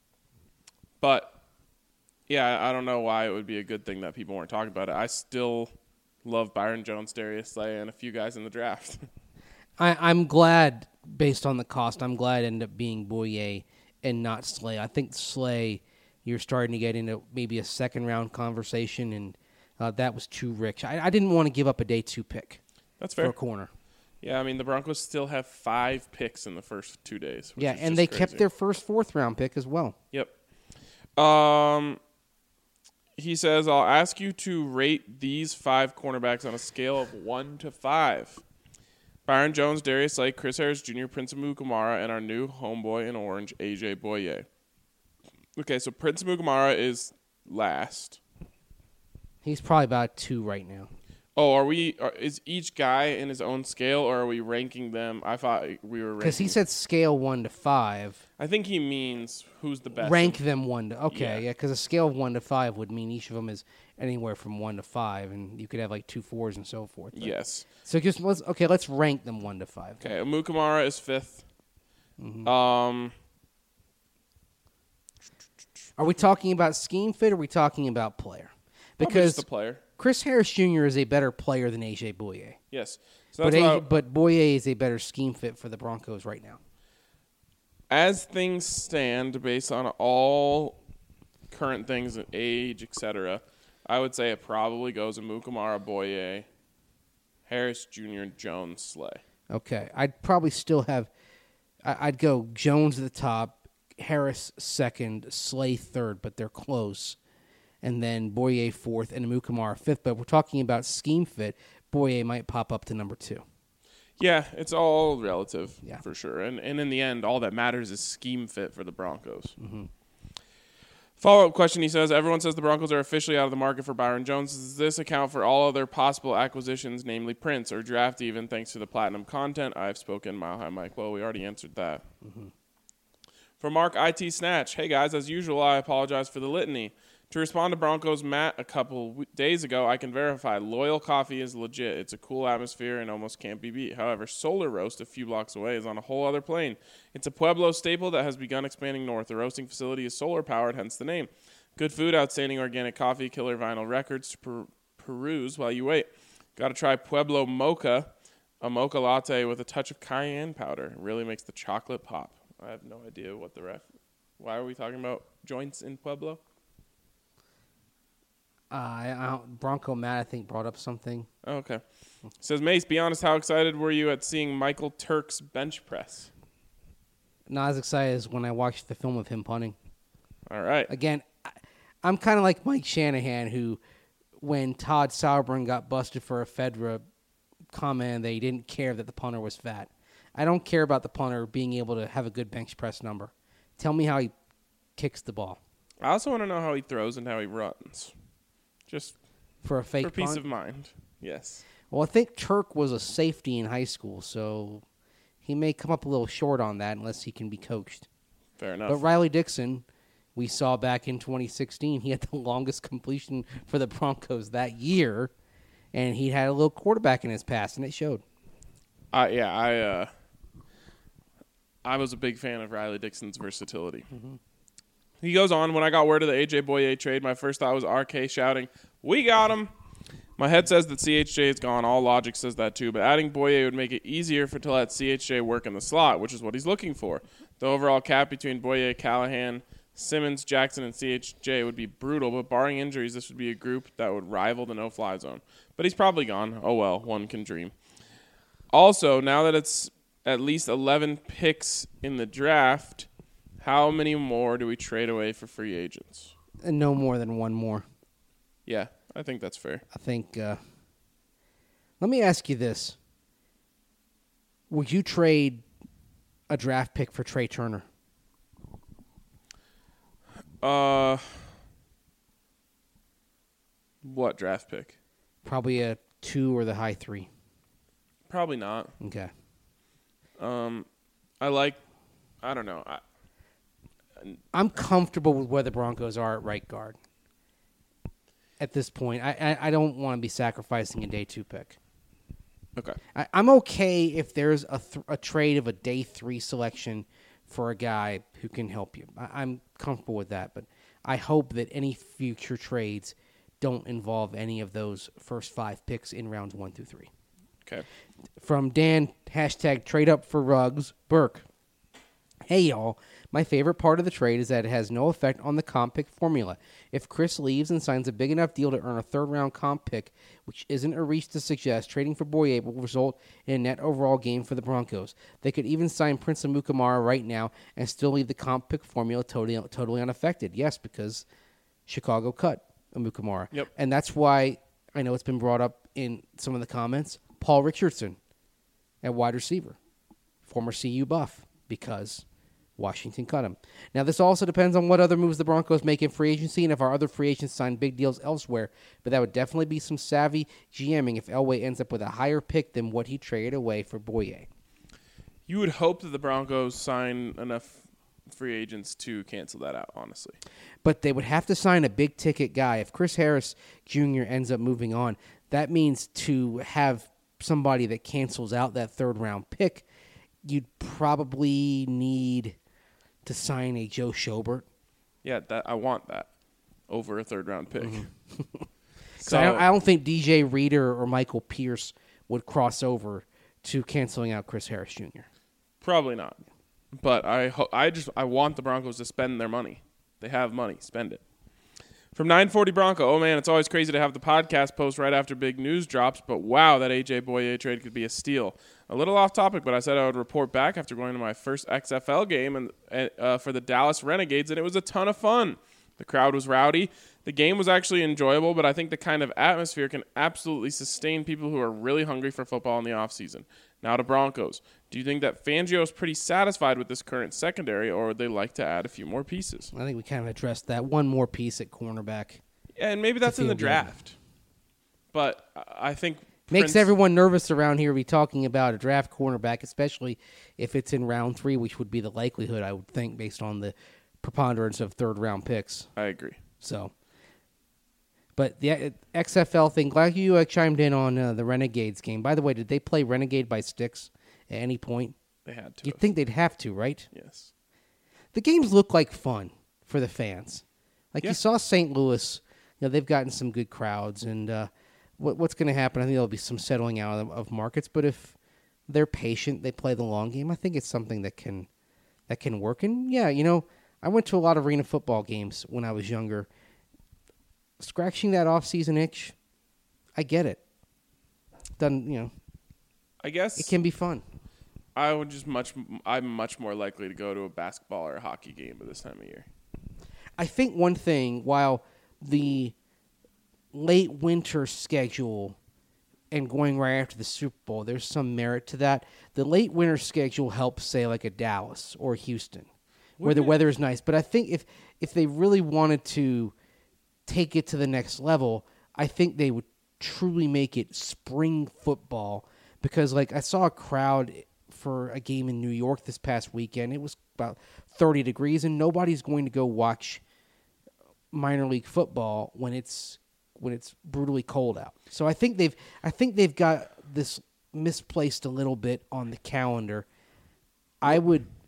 yeah, I don't know why it would be a good thing that people weren't talking about it. I still love Byron Jones, Darius Slay, and a few guys in the draft. I'm glad, based on the cost, I'm glad it ended up being Boye and not Slay. I think Slay, you're starting to get into maybe a second-round conversation, and that was too rich. I didn't want to give up a day 2 pick. That's fair. For a corner. Yeah, I mean, the Broncos still have 5 picks in the first 2 days. Yeah, and they kept their first 4th-round pick as well. Yep. he says, I'll ask you to rate these 5 cornerbacks on a scale of 1 to 5. Byron Jones, Darius Slay, Chris Harris Jr., Prince Amukamara, and our new homeboy in orange, AJ Boye. Okay, so Prince Amukamara is last. He's probably about 2 right now. Oh, is each guy in his own scale, or are we ranking them? I thought we were ranking. Because he said scale 1 to 5. I think he means who's the best. Rank them 1 to... Okay, Yeah. yeah, because a scale of 1 to 5 would mean each of them is anywhere from 1 to 5, and you could have like 2 4s and so forth. But- Yes. So let's rank them 1 to 5. Okay, Amukamara is 5th. Mm-hmm. Are we talking about scheme fit, or are we talking about player? Probably Because just the player. Chris Harris Jr. is a better player than AJ Boye. Yes. So that's But Boye is a better scheme fit for the Broncos right now. as things stand, based on all current things, age, etc., I would say it probably goes Amukamara, Boye, Harris Jr., Jones, Slay. Okay, I'd probably still have. I'd go Jones at the top, Harris second, Slay third, but they're close, and then Boye fourth and Amukamara fifth. But we're talking about scheme fit. Boye might pop up to number 2. Yeah, it's all relative, Yeah. for sure. And in the end, all that matters is scheme fit for the Broncos. Mm-hmm. Follow-up question, he says, everyone says the Broncos are officially out of the market for Byron Jones. Does this account for all other possible acquisitions, namely Prince or draft even, thanks to the platinum content? I've spoken, Mile High Mike. Well, we already answered that. Mm-hmm. From Mark IT Snatch, hey guys, as usual, I apologize for the litany. To respond to Broncos Matt a couple days ago, I can verify Loyal Coffee is legit. It's a cool atmosphere and almost can't be beat. However, Solar Roast a few blocks away is on a whole other plane. It's a Pueblo staple that has begun expanding north. The roasting facility is solar powered, hence the name. Good food, outstanding organic coffee, killer vinyl records to peruse while you wait. Got to try Pueblo Mocha, a mocha latte with a touch of cayenne powder. It really makes the chocolate pop. I have no idea what why are we talking about joints in Pueblo? Bronco Matt, I think, brought up something. Oh, okay. Says, Mace, be honest, how excited were you at seeing Michael Turk's bench press? Not as excited as when I watched the film of him punting. All right. Again, I'm kind of like Mike Shanahan, who, when Todd Sauerbrunn got busted for a FEDRA comment, they didn't care that the punter was fat. I don't care about the punter being able to have a good bench press number. Tell me how he kicks the ball. I also want to know how he throws and how he runs. Just For a fake for peace punt? of mind. Yes. Well, I think Turk was a safety in high school, so he may come up a little short on that unless he can be coached. Fair enough. But Riley Dixon, we saw back in 2016, he had the longest completion for the Broncos that year, and he had a little quarterback in his past, and it showed. I was a big fan of Riley Dixon's versatility. Mm-hmm. He goes on, when I got word of the AJ Boye trade, my first thought was RK shouting, "We got him!" My head says that CHJ is gone. All logic says that too. But adding Boye would make it easier to let CHJ work in the slot, which is what he's looking for. The overall cap between Boye, Callahan, Simmons, Jackson, and CHJ would be brutal, but barring injuries, this would be a group that would rival the no-fly zone. But he's probably gone. Oh well, one can dream. Also, now that it's at least 11 picks in the draft, how many more do we trade away for free agents? And no more than one more. Yeah, I think that's fair. I think. Let me ask you this: would you trade a draft pick for Trey Turner? What draft pick? Probably a 2 or the high 3. Probably not. Okay. I don't know. I'm comfortable with where the Broncos are at right guard. At this point, I don't want to be sacrificing a day 2 pick. Okay. I'm okay if there's a trade of a day 3 selection for a guy who can help you. I'm comfortable with that, but I hope that any future trades don't involve any of those first 5 picks in rounds 1 through 3. Okay. From Dan, #trade up for Ruggs, Burke. Hey, y'all. My favorite part of the trade is that it has no effect on the comp pick formula. If Chris leaves and signs a big enough deal to earn a third-round comp pick, which isn't a reach to suggest, trading for Boye will result in a net overall gain for the Broncos. They could even sign Prince Amukamara right now and still leave the comp pick formula totally unaffected. Yes, because Chicago cut. Amukamara. Yep. And that's why I know it's been brought up in some of the comments. Paul Richardson at wide receiver, former CU Buff, because Washington cut him. Now, this also depends on what other moves the Broncos make in free agency and if our other free agents sign big deals elsewhere. But that would definitely be some savvy GMing if Elway ends up with a higher pick than what he traded away for Boye. You would hope that the Broncos sign enough free agents to cancel that out, honestly. But they would have to sign a big-ticket guy. If Chris Harris Jr. ends up moving on, that means to have somebody that cancels out that third-round pick, you'd probably need to sign a Joe Schobert. Yeah, I want that over a third-round pick. So I don't think DJ Reader or Michael Pierce would cross over to canceling out Chris Harris Jr. Probably not. But I want the Broncos to spend their money. They have money. Spend it. From 940 Bronco, oh man, it's always crazy to have the podcast post right after big news drops, but wow, that A.J. Boye trade could be a steal. A little off topic, but I said I would report back after going to my first XFL game for the Dallas Renegades, and it was a ton of fun. The crowd was rowdy. The game was actually enjoyable, but I think the kind of atmosphere can absolutely sustain people who are really hungry for football in the offseason. Now to Broncos. Do you think that Fangio is pretty satisfied with this current secondary, or would they like to add a few more pieces? I think we kind of addressed that. One more piece at cornerback. Yeah, and maybe that's in the feel good. draft. But I think Makes everyone nervous around here to be talking about a draft cornerback, especially if it's in round 3, which would be the likelihood, I would think, based on the preponderance of third-round picks. I agree. So, but the XFL thing, glad you chimed in on the Renegades game. By the way, did they play Renegade by sticks at any point? They had to. You'd think they'd have to, right? Yes. The games look like fun for the fans. Like Yeah. you saw St. Louis, they've gotten some good crowds, and what's going to happen? I think there'll be some settling out of markets. But if they're patient, they play the long game. I think it's something that can work. And yeah, I went to a lot of arena football games when I was younger. Scratching that off-season itch, I get it. I guess It can be fun. I'm much more likely to go to a basketball or a hockey game at this time of year. I think one thing, while the late winter schedule and going right after the Super Bowl, there's some merit to that. The late winter schedule helps, say, like a Dallas or Houston, where the weather is nice. But I think if they really wanted to take it to the next level, I think they would truly make it spring football. Because, like, I saw a crowd for a game in New York this past weekend. It was about 30 degrees, and nobody's going to go watch minor league football when it's brutally cold out. So I think they've got this misplaced a little bit on the calendar. I'd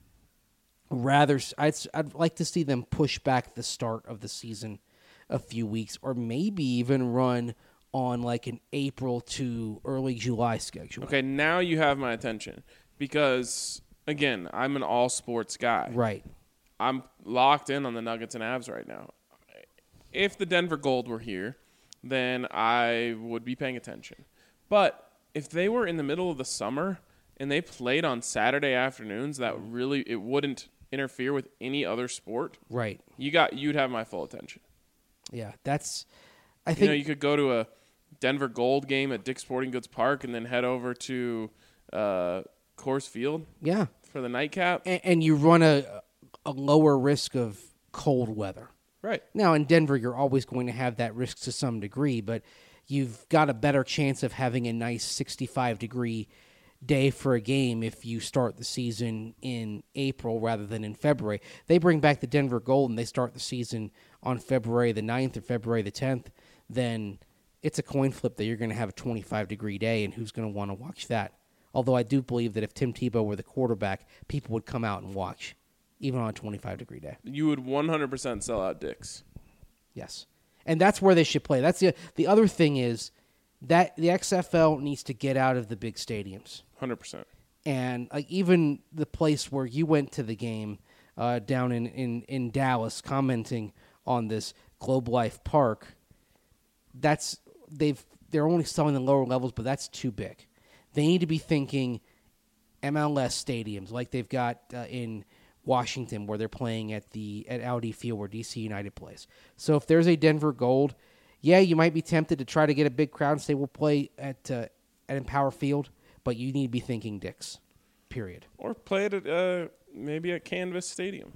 like to see them push back the start of the season a few weeks, or maybe even run on like an April to early July schedule. Okay, now you have my attention because, again, I'm an all-sports guy. Right. I'm locked in on the Nuggets and Avs right now. If the Denver Gold were here, then I would be paying attention. But if they were in the middle of the summer and they played on Saturday afternoons, it wouldn't interfere with any other sport. Right. You'd have my full attention. Yeah, I think You could go to a Denver Gold game at Dick's Sporting Goods Park and then head over to Coors Field yeah. for the nightcap. And you run a lower risk of cold weather. Right. Now, in Denver, you're always going to have that risk to some degree, but you've got a better chance of having a nice 65-degree day for a game if you start the season in April rather than in February. They bring back the Denver Gold and they start the season on February the 9th or February the 10th, then it's a coin flip that you're going to have a 25-degree day, and who's going to want to watch that? Although I do believe that if Tim Tebow were the quarterback, people would come out and watch, even on a 25-degree day. You would 100% sell out Dick's. Yes. And that's where they should play. That's the other thing is that the XFL needs to get out of the big stadiums. 100%. And like even the place where you went to the game down in Dallas, commenting on this Globe Life Park, they're only selling the lower levels, but that's too big. They need to be thinking MLS stadiums like they've got in Washington, where they're playing at Audi Field where DC United plays. So if there's a Denver Gold, Yeah, you might be tempted to try to get a big crowd and say we'll play at Empower Field, but you need to be thinking Dix, period. Or play it at maybe at Canvas Stadium.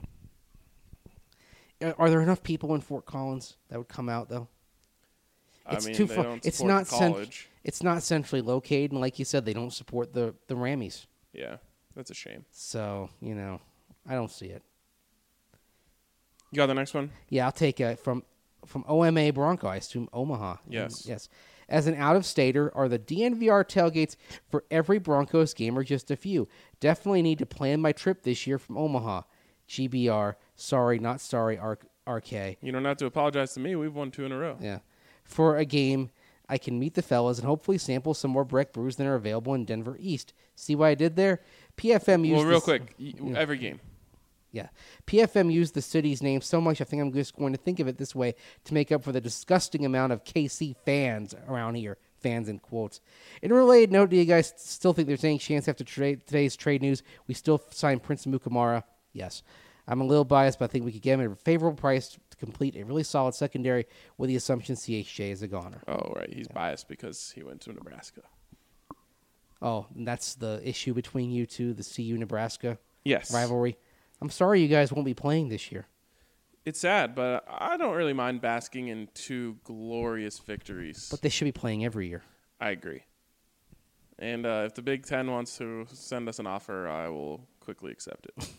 Are there enough people in Fort Collins that would come out, though? It's too they far. don't It's support not the college. it's not centrally located, and like you said, they don't support the Rammies. Yeah, that's a shame. So, I don't see it. You got the next one? Yeah, I'll take from OMA Bronco, I assume Omaha. Yes. Yes. As an out-of-stater, are the DNVR tailgates for every Broncos game or just a few? Definitely need to plan my trip this year from Omaha. GBR. Sorry, not sorry, RK. You don't have to apologize to me. We've won 2 in a row. Yeah. For a game, I can meet the fellas and hopefully sample some more Breck brews that are available in Denver East. See what I did there? PFM used Well, real quick, every game. Yeah. PFM used the city's name so much, I think I'm just going to think of it this way to make up for the disgusting amount of KC fans around here. Fans in quotes. In a related note, do you guys still think there's any chance after today's trade news we still sign Prince Mukamara? Yes. I'm a little biased, but I think we could get him at a favorable price to complete a really solid secondary with the assumption CHJ is a goner. Oh, right. He's biased because he went to Nebraska. Oh, and that's the issue between you two, the CU-Nebraska Yes. rivalry. I'm sorry you guys won't be playing this year. It's sad, but I don't really mind basking in 2 glorious victories. But they should be playing every year. I agree. And if the Big Ten wants to send us an offer, I will quickly accept it.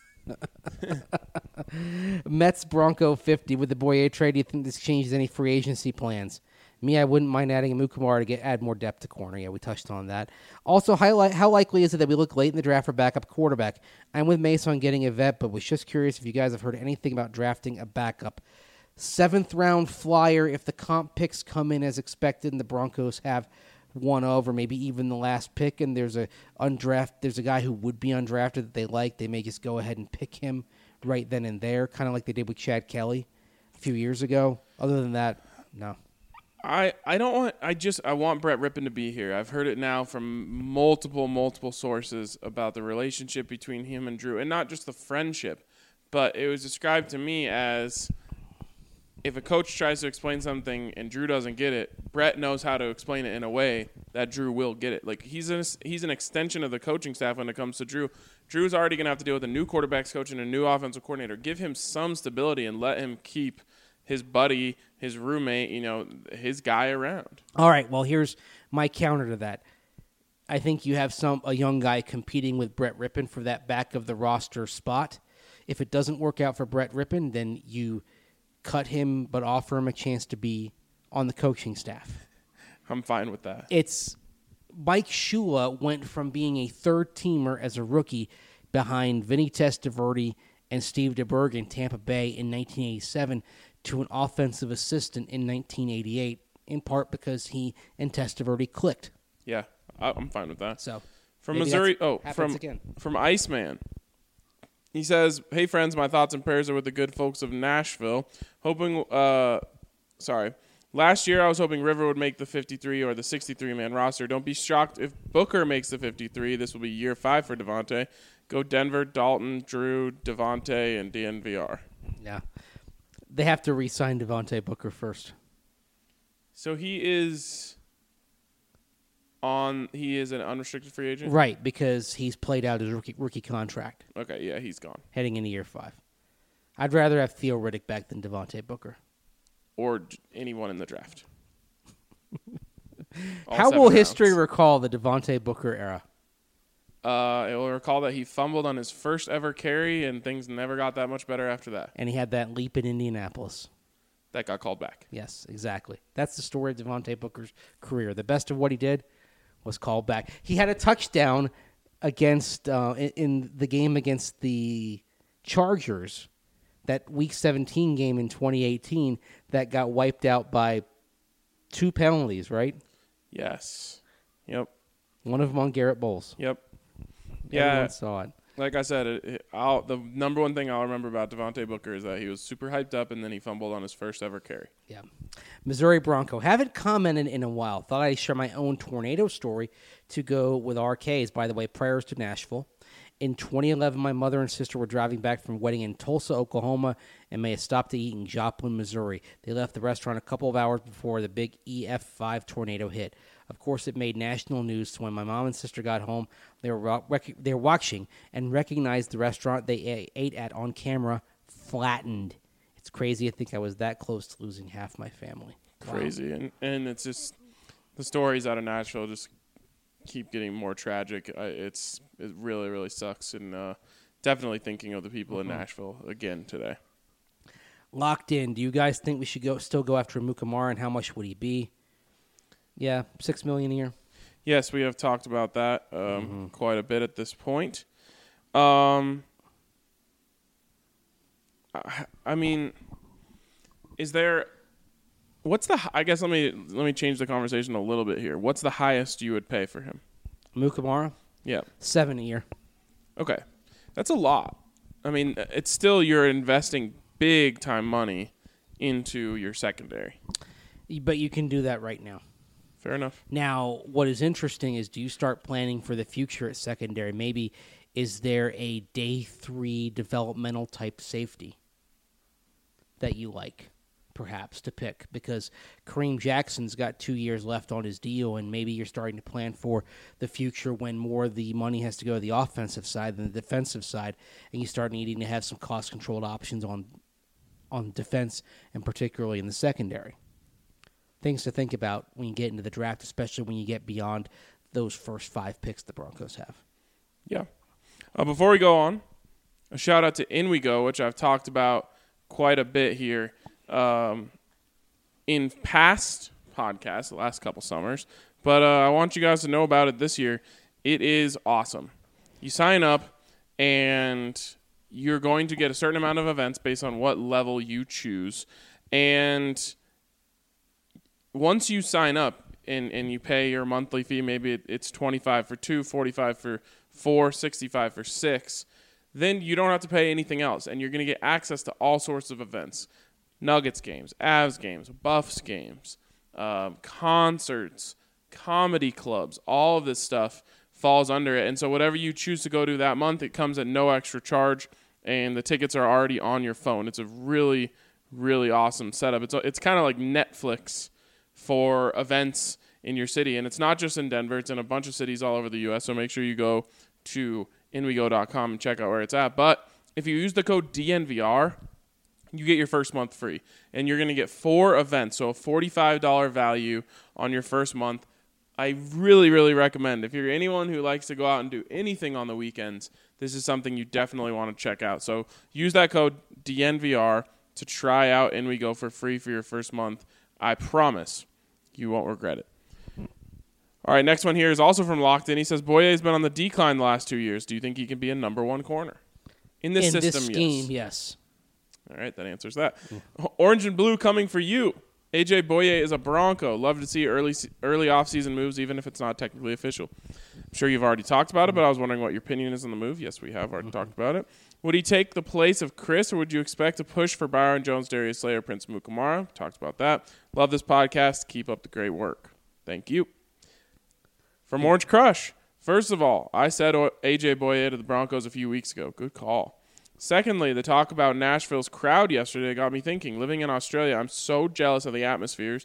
Mets Bronco 50 with the Boyer trade. Do you think this changes any free agency plans? Me, I wouldn't mind adding a Mukamara to add more depth to corner. Yeah, we touched on that. Also, how likely is it that we look late in the draft for backup quarterback? I'm with Mace on getting a vet, but was just curious if you guys have heard anything about drafting a backup. 7th round flyer if the comp picks come in as expected and the Broncos have one of or maybe even the last pick and there's a guy who would be undrafted that they like, they may just go ahead and pick him right then and there, kind of like they did with Chad Kelly a few years ago. Other than that, no. I want Brett Rippon to be here. I've heard it now from multiple sources about the relationship between him and Drew, and not just the friendship, but it was described to me as if a coach tries to explain something and Drew doesn't get it, Brett knows how to explain it in a way that Drew will get it. Like he's an extension of the coaching staff when it comes to Drew. Drew's already going to have to deal with a new quarterbacks coach and a new offensive coordinator. Give him some stability and let him keep his buddy, his roommate, his guy around. All right, well, here's my counter to that. I think you have a young guy competing with Brett Rippon for that back of the roster spot. If it doesn't work out for Brett Rippon, then you cut him but offer him a chance to be on the coaching staff. I'm fine with that. It's Mike Shula went from being a third-teamer as a rookie behind Vinny Testaverde and Steve DeBerg in Tampa Bay in 1987 to an offensive assistant in 1988, in part because he and Testaverde clicked. Yeah, I'm fine with that. So from Missouri, from Iceman. He says, "Hey friends, my thoughts and prayers are with the good folks of Nashville. Last year I was hoping River would make the 53 or the 63-man roster. Don't be shocked if Booker makes the 53. This will be year 5 for Devontae. Go Denver, Dalton, Drew, Devontae, and DNVR." Yeah. They have to re-sign Devontae Booker first. So he is an unrestricted free agent? Right, because he's played out his rookie contract. Okay, yeah, he's gone. Heading into year 5. I'd rather have Theo Riddick back than Devontae Booker. Or anyone in the draft. How will history recall the Devontae Booker era? It will recall that he fumbled on his first ever carry, and things never got that much better after that. And he had that leap in Indianapolis. That got called back. Yes, exactly. That's the story of Devontae Booker's career. The best of what he did was called back. He had a touchdown against in the game against the Chargers, that Week 17 game in 2018 that got wiped out by 2 penalties, right? Yes. Yep. One of them on Garrett Bowles. Yep. Everyone saw it. Like I said, the number one thing I'll remember about Devontae Booker is that he was super hyped up and then he fumbled on his first ever carry. Yeah. Missouri Bronco. Haven't commented in a while. Thought I'd share my own tornado story to go with RK's. By the way, prayers to Nashville. In 2011, my mother and sister were driving back from a wedding in Tulsa, Oklahoma, and may have stopped to eat in Joplin, Missouri. They left the restaurant a couple of hours before the big EF5 tornado hit. Of course, it made national news, so when my mom and sister got home, they were watching and recognized the restaurant they ate at on camera flattened. It's crazy to think I was that close to losing half my family. Crazy. And it's just the stories out of Nashville just keep getting more tragic. It really, really sucks. And definitely thinking of the people in Nashville again today. Locked in. Do you guys think we should still go after Mukamara, and how much would he be? Yeah, $6 million a year. Yes, we have talked about that quite a bit at this point. I mean, is there? What's the? I guess let me change the conversation a little bit here. What's the highest you would pay for him? Mukamara? Yeah. $7 a year. Okay, that's a lot. I mean, it's still you're investing big time money into your secondary. But you can do that right now. Fair enough. Now, what is interesting is, do you start planning for the future at secondary? Maybe is there a day 3 developmental type safety that you like, perhaps, to pick? Because Kareem Jackson's got 2 years left on his deal, and maybe you're starting to plan for the future when more of the money has to go to the offensive side than the defensive side, and you start needing to have some cost-controlled options on defense, and particularly in the secondary. Things to think about when you get into the draft, especially when you get beyond those first 5 picks the Broncos have. Yeah. Before we go on, a shout out to In We Go, which I've talked about quite a bit here in past podcasts, the last couple summers. But I want you guys to know about it this year. It is awesome. You sign up, and you're going to get a certain amount of events based on what level you choose. And once you sign up and you pay your monthly fee, maybe it's $25 for 2, $45 for 4, $65 for 6, then you don't have to pay anything else, and you're going to get access to all sorts of events. Nuggets games, Avs games, Buffs games, concerts, comedy clubs, all of this stuff falls under it. And so whatever you choose to go to that month, it comes at no extra charge, and the tickets are already on your phone. It's a really, really awesome setup. It's kind of like Netflix for events in your city. And it's not just in Denver. It's in a bunch of cities all over the U.S., so make sure you go to inwego.com and check out where it's at. But if you use the code DNVR, you get your first month free. And you're going to get 4 events, so a $45 value on your first month. I really, really recommend, if you're anyone who likes to go out and do anything on the weekends, this is something you definitely want to check out. So use that code DNVR to try out InWeGo for free for your first month. I promise you won't regret it. All right, next one here is also from Locked In. He says, Boye has been on the decline the last 2 years. Do you think he can be a number 1 corner? In this system, this scheme, yes. All right, that answers that. Orange and blue coming for you. AJ Boye is a Bronco. Love to see early offseason moves, even if it's not technically official. I'm sure you've already talked about it, but I was wondering what your opinion is on the move. Yes, we have already talked about it. Would he take the place of Chris, or would you expect a push for Byron Jones, Darius Slayer, Prince Mukamara? Talked about that. Love this podcast. Keep up the great work. Thank you. From Orange Crush. First of all, I said AJ Boye to the Broncos a few weeks ago. Good call. Secondly, the talk about Nashville's crowd yesterday got me thinking. Living in Australia, I'm so jealous of the atmospheres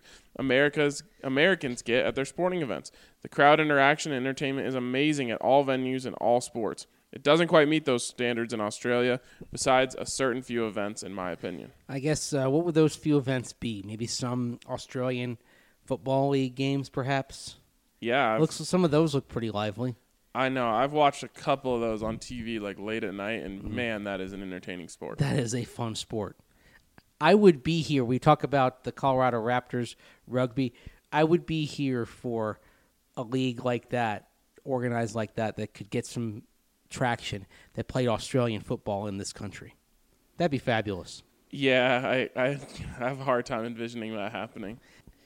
Americans get at their sporting events. The crowd interaction and entertainment is amazing at all venues and all sports. It doesn't quite meet those standards in Australia, besides a certain few events, in my opinion. I guess, what would those few events be? Maybe some Australian Football League games, perhaps? Yeah. Some of those look pretty lively. I know. I've watched a couple of those on TV like late at night, and man, that is an entertaining sport. That is a fun sport. I would be here. We talk about the Colorado Raptors rugby. I would be here for a league like that, organized like that could get some traction, that played Australian football in this country. That'd be fabulous. Yeah, I have a hard time envisioning that happening.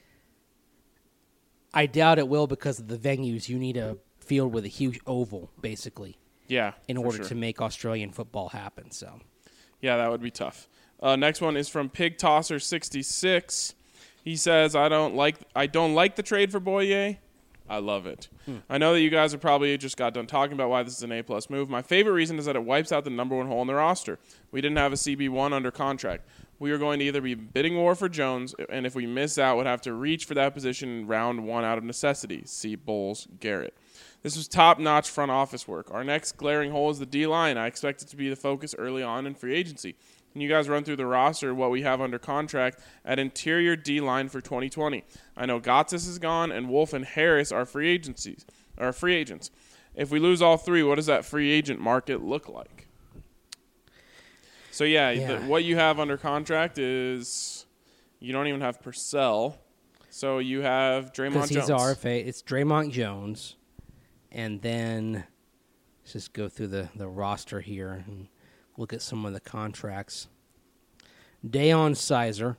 I doubt it will because of the venues. You need a field with a huge oval, basically. Yeah, in order to make Australian football happen. So, yeah, that would be tough. Next one is from Pig Tosser 66. He says, "I don't like the trade for Boye. I love it. I know that you guys have probably just got done talking about why this is an A-plus move. My favorite reason is that it wipes out the number one hole in the roster. We didn't have a CB1 under contract. We are going to either be bidding war for Jones, and if we miss out, would have to reach for that position in round one out of necessity. See Bowles Garrett. This was top-notch front office work. Our next glaring hole is the D-line. I expect it to be the focus early on in free agency. Can you guys run through the roster, what we have under contract at interior D-line for 2020? I know Gotsis is gone, and Wolf and Harris are free agents. If we lose all three, what does that free agent market look like? So, what you have under contract is you don't even have Purcell. So you have Draymond Jones. Because he's RFA. It's Draymond Jones. And then let's just go through the roster here and look at some of the contracts. Deion Sizer.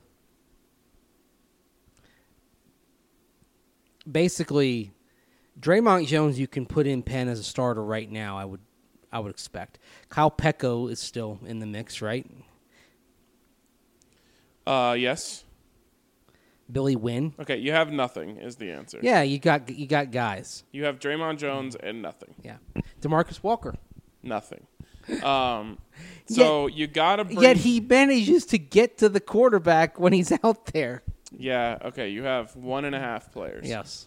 Basically, Draymond Jones you can put in pen as a starter right now, I would expect. Kyle Pecco is still in the mix, right? Yes. Billy Wynn. Okay, you have nothing is the answer. Yeah, you got guys. You have Draymond Jones and nothing. Yeah. DeMarcus Walker. Nothing. So you got to bring... Yet he manages to get to the quarterback when he's out there. Yeah, okay, you have 1.5 players. Yes.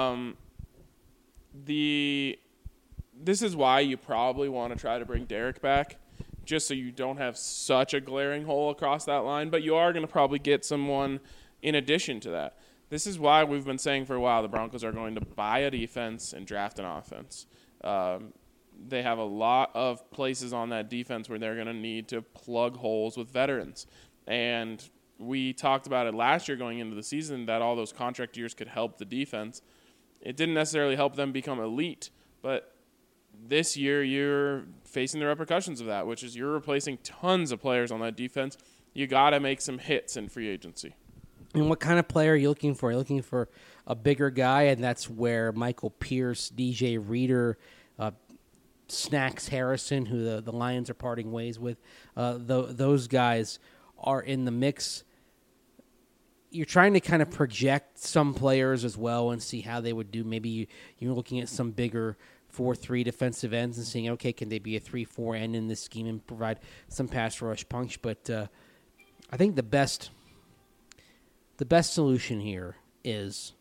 This is why you probably want to try to bring Derek back, just so you don't have such a glaring hole across that line, but you are going to probably get someone in addition to that. This is why we've been saying for a while the Broncos are going to buy a defense and draft an offense. They have a lot of places on that defense where they're going to need to plug holes with veterans. And we talked about it last year going into the season that all those contract years could help the defense. It didn't necessarily help them become elite, but this year you're facing the repercussions of that, which is you're replacing tons of players on that defense. You got to make some hits in free agency. And what kind of player are you looking for? You're looking for a bigger guy, and that's where Michael Pierce, DJ Reader, Snacks Harrison, who the Lions are parting ways with, those guys are in the mix. You're trying to kind of project some players as well and see how they would do. Maybe you're looking at some bigger 4-3 defensive ends and seeing, okay, can they be a 3-4 end in this scheme and provide some pass rush punch? But I think the best solution here is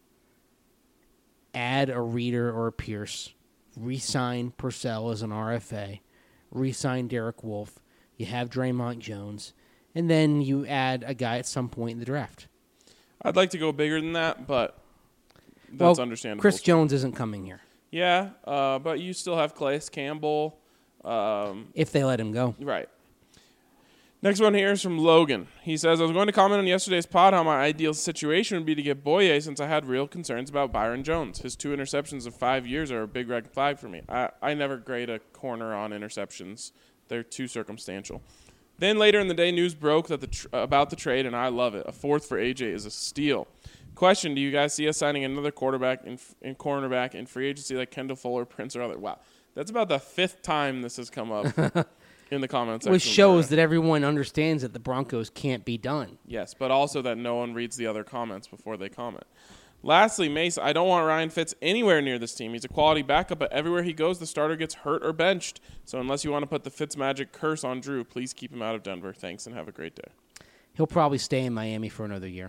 add a Reader or a Pierce, re-sign Purcell as an RFA, re-sign Derek Wolfe, you have Draymond Jones, and then you add a guy at some point in the draft. I'd like to go bigger than that, but that's understandable. Chris Jones isn't coming here. Yeah, but you still have Calais Campbell. If they let him go. Right. Next one here is from Logan. He says, I was going to comment on yesterday's pod how my ideal situation would be to get Boye since I had real concerns about Byron Jones. His 2 interceptions in 5 years are a big red flag for me. I never grade a corner on interceptions. They're too circumstantial. Then later in the day, news broke that about the trade, and I love it. A 4th for AJ is a steal. Question, do you guys see us signing another quarterback in cornerback in free agency like Kendall Fuller, Prince, or other? Wow. That's about the 5th time this has come up. In the comments section. Which shows that everyone understands that the Broncos can't be done. Yes, but also that no one reads the other comments before they comment. Lastly, Mace, I don't want Ryan Fitz anywhere near this team. He's a quality backup, but everywhere he goes, the starter gets hurt or benched. So unless you want to put the Fitz magic curse on Drew, please keep him out of Denver. Thanks, and have a great day. He'll probably stay in Miami for another year.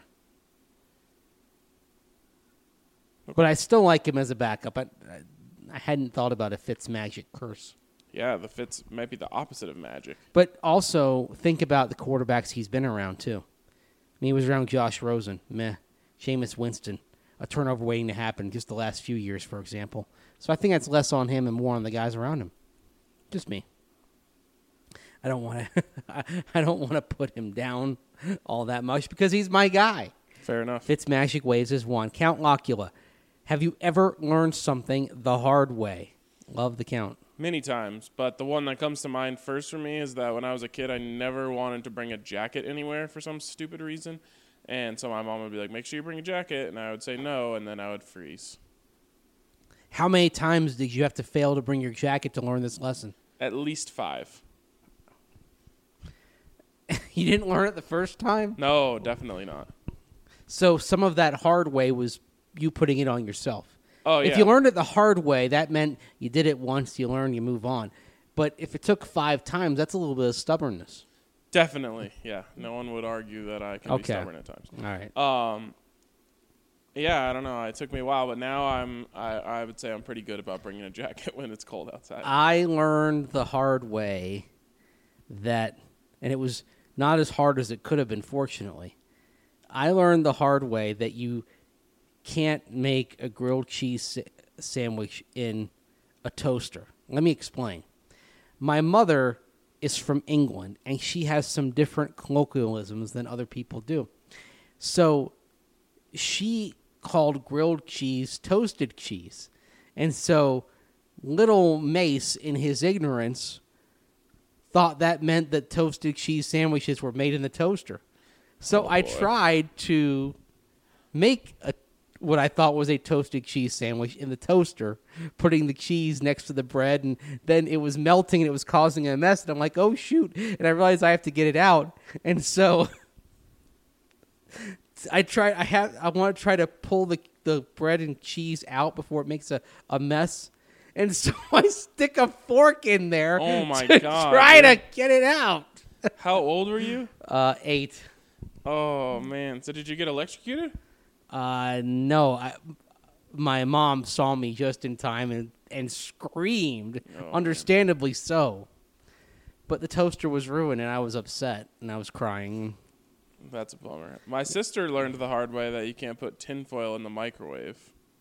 Okay. But I still like him as a backup. I hadn't thought about a Fitz magic curse. Yeah, the Fitz might be the opposite of magic. But also, think about the quarterbacks he's been around, too. He was around Josh Rosen, meh. Jameis Winston, a turnover waiting to happen just the last few years, for example. So I think that's less on him and more on the guys around him. Just me. I don't want to put him down all that much because he's my guy. Fair enough. Fitz magic ways is one. Count Locula. Have you ever learned something the hard way? Love the count. Many times, but the one that comes to mind first for me is that when I was a kid, I never wanted to bring a jacket anywhere for some stupid reason. And so my mom would be like, make sure you bring a jacket. And I would say no, and then I would freeze. How many times did you have to fail to bring your jacket to learn this lesson? At least 5. You didn't learn it the first time? No, definitely not. So some of that hard way was you putting it on yourself. Oh, If yeah. you learned it the hard way, that meant you did it once, you learn, you move on. But if it took 5 times, that's a little bit of stubbornness. Definitely, yeah. No one would argue that I can be Okay. stubborn at times. All right. Yeah, I don't know. It took me a while, but now I would say I'm pretty good about bringing a jacket when it's cold outside. I learned the hard way that, and it was not as hard as it could have been, fortunately. I learned the hard way that you can't make a grilled cheese sandwich in a toaster. Let me explain. My mother is from England, and she has some different colloquialisms than other people do. So she called grilled cheese toasted cheese. And so little Mace, in his ignorance, thought that meant that toasted cheese sandwiches were made in the toaster. So I tried to make what I thought was a toasted cheese sandwich in the toaster, putting the cheese next to the bread, and then it was melting and it was causing a mess. And I'm like, oh, shoot. And I realized I have to get it out. And so I want to try to pull the bread and cheese out before it makes a mess. And so I stick a fork in there Oh, my to God, try to dude. get it out. How old were you? 8. Oh, man. So did you get electrocuted? No. My mom saw me just in time and screamed, understandably so. But the toaster was ruined, and I was upset, and I was crying. That's a bummer. My sister learned the hard way that you can't put tinfoil in the microwave.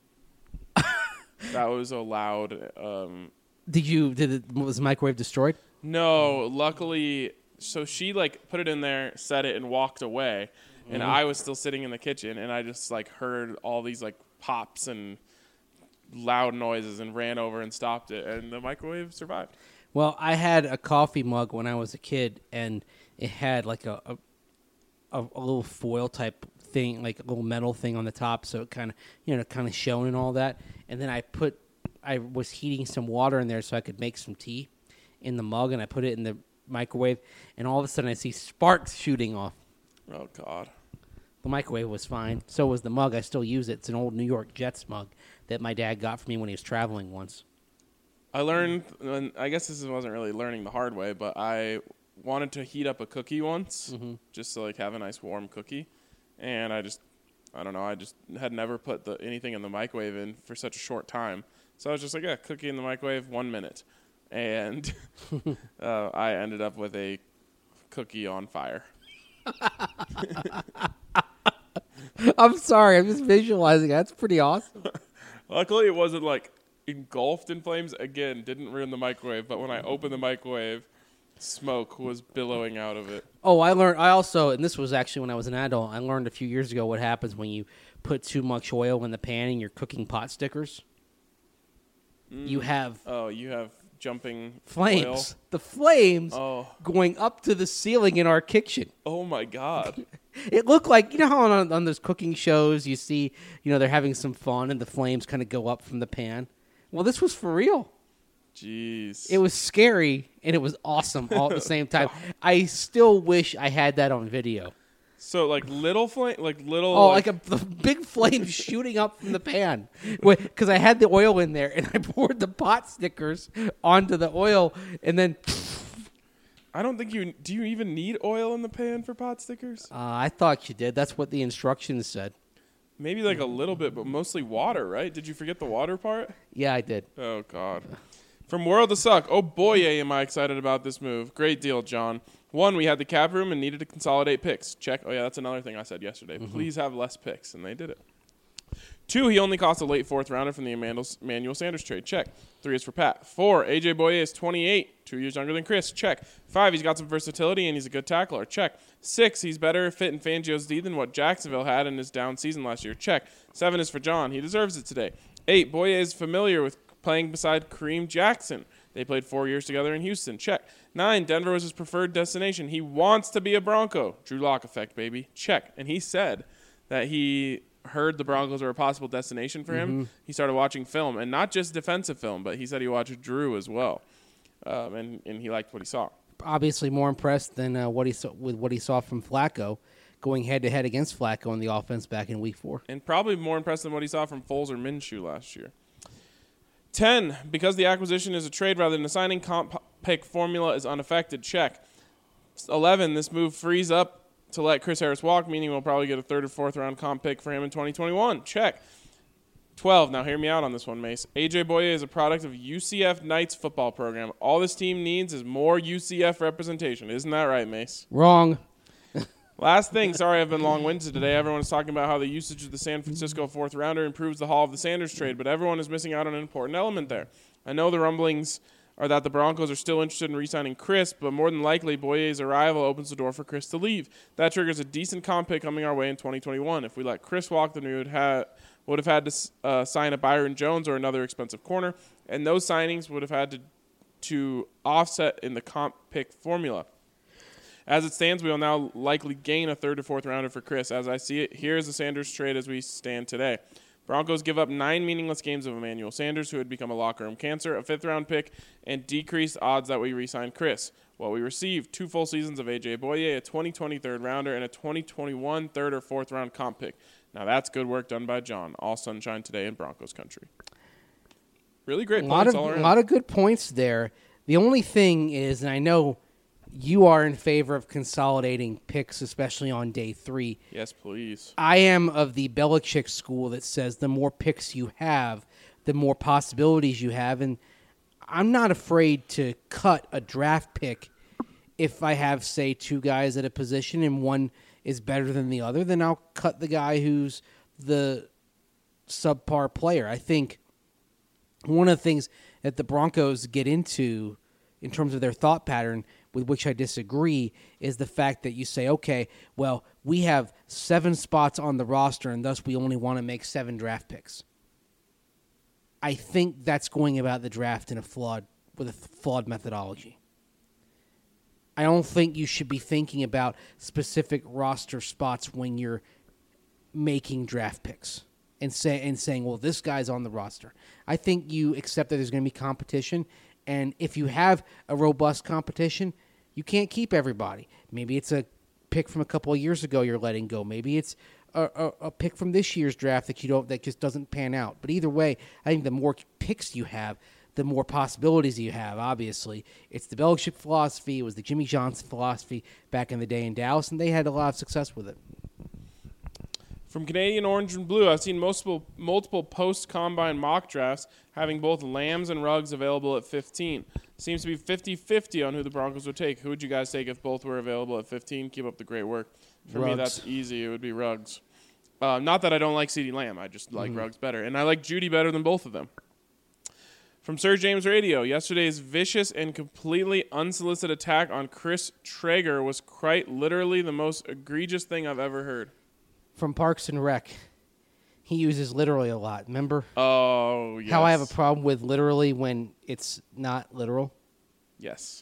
That was allowed. Was the microwave destroyed? No, luckily, so she put it in there, set it, and walked away. And I was still sitting in the kitchen, and I just heard all these pops and loud noises, and ran over and stopped it, and the microwave survived. Well, I had a coffee mug when I was a kid, and it had a little foil type thing, like a little metal thing on the top, so it kind of shone and all that. And then I was heating some water in there so I could make some tea in the mug, and I put it in the microwave, and all of a sudden I see sparks shooting off. Oh, God. The microwave was fine. So was the mug. I still use it. It's an old New York Jets mug that my dad got for me when he was traveling once. I learned, and I guess this wasn't really learning the hard way, but I wanted to heat up a cookie once, just to have a nice warm cookie. And I just had never put anything in the microwave in for such a short time. So I was just cookie in the microwave, 1 minute. And I ended up with a cookie on fire. I'm sorry. I'm just visualizing. That's pretty awesome. Luckily, it wasn't engulfed in flames. Again, didn't ruin the microwave. But when I opened the microwave, smoke was billowing out of it. Oh, I also, and this was actually when I was an adult, I learned a few years ago what happens when you put too much oil in the pan and you're cooking pot stickers. You have jumping flames. oil. The flames Oh. going up to the ceiling in our kitchen. Oh, my God. It looked like, you know how on those cooking shows you see, they're having some fun and the flames kind of go up from the pan? Well, this was for real. Jeez. It was scary and it was awesome all at the same time. I still wish I had that on video. So, little flame? The big flame shooting up from the pan. Because I had the oil in there and I poured the pot stickers onto the oil and then... I don't think do you even need oil in the pan for pot stickers? I thought you did. That's what the instructions said. Maybe a little bit, but mostly water, right? Did you forget the water part? Yeah, I did. Oh, God. From World to Suck. Oh, boy, am I excited about this move. Great deal, John. 1, we had the cap room and needed to consolidate picks. Check. Oh, yeah, that's another thing I said yesterday. Please have less picks, and they did it. 2, he only cost a late 4th rounder from the Emmanuel Sanders trade. Check. 3 is for Pat. 4, A.J. Boye is 28, 2 years younger than Chris. Check. 5, he's got some versatility, and he's a good tackler. Check. 6, he's better fit in Fangio's D than what Jacksonville had in his down season last year. Check. 7 is for John. He deserves it today. 8, Boye is familiar with playing beside Kareem Jackson. They played 4 years together in Houston. Check. 9, Denver was his preferred destination. He wants to be a Bronco. Drew Lock effect, baby. Check. And he said that he heard the Broncos were a possible destination for him. He started watching film, and not just defensive film, but he said he watched Drew as well, and he liked what he saw. Obviously more impressed than what he saw from Flacco. going head-to-head against Flacco on the offense back in Week 4. And probably more impressed than what he saw from Foles or Minshew last year. 10, because the acquisition is a trade rather than a signing, comp pick formula is unaffected. Check. 11, this move frees up to let Chris Harris walk, meaning we'll probably get a 3rd or 4th round comp pick for him in 2021. Check. 12, now hear me out on this one, Mace. AJ Boye is a product of UCF Knights football program. All this team needs is more UCF representation. Isn't that right, Mace? Wrong. Last thing, sorry I've been long-winded today. Everyone's talking about how the usage of the San Francisco 4th rounder improves the haul of the Sanders trade, but everyone is missing out on an important element there. I know the rumblings are that the Broncos are still interested in re-signing Chris, but more than likely, Boye's arrival opens the door for Chris to leave. That triggers a decent comp pick coming our way in 2021. If we let Chris walk, then we would have had to sign a Byron Jones or another expensive corner, and those signings would have had to offset in the comp pick formula. As it stands, we will now likely gain a 3rd or 4th rounder for Chris. As I see it, here's the Sanders trade as we stand today. Broncos give up 9 meaningless games of Emmanuel Sanders, who had become a locker room cancer, a 5th-round pick, and decreased odds that we re-sign Chris. What we received, 2 full seasons of A.J. Boye, a 2020 3rd-rounder, and a 2021 3rd or 4th-round comp pick. Now that's good work done by John. All sunshine today in Broncos country. Really great points all around. A lot of good points there. The only thing is, and I know you are in favor of consolidating picks, especially on day 3. Yes, please. I am of the Belichick school that says the more picks you have, the more possibilities you have. And I'm not afraid to cut a draft pick if I have, say, 2 guys at a position and one is better than the other. Then I'll cut the guy who's the subpar player. I think one of the things that the Broncos get into in terms of their thought pattern, with which I disagree, is the fact that you say, okay, well, we have 7 spots on the roster, and thus we only want to make 7 draft picks. I think that's going about the draft with a flawed methodology. I don't think you should be thinking about specific roster spots when you're making draft picks and saying, well, this guy's on the roster. I think you accept that there's going to be competition, and if you have a robust competition, you can't keep everybody. Maybe it's a pick from a couple of years ago you're letting go. Maybe it's a pick from this year's draft that just doesn't pan out. But either way, I think the more picks you have, the more possibilities you have. Obviously, it's the Belichick philosophy. It was the Jimmy Johnson philosophy back in the day in Dallas, and they had a lot of success with it. From Canadian Orange and Blue, I've seen multiple post-combine mock drafts having both Lambs and Ruggs available at 15. Seems to be 50-50 on who the Broncos would take. Who would you guys take if both were available at 15? Keep up the great work. For me, that's easy. It would be Ruggs. Not that I don't like CeeDee Lamb. I just like Ruggs better. And I like Judy better than both of them. From Sir James Radio, yesterday's vicious and completely unsolicited attack on Chris Traeger was quite literally the most egregious thing I've ever heard. From Parks and Rec. He uses literally a lot. Remember? Oh, yes. How I have a problem with literally when it's not literal? Yes.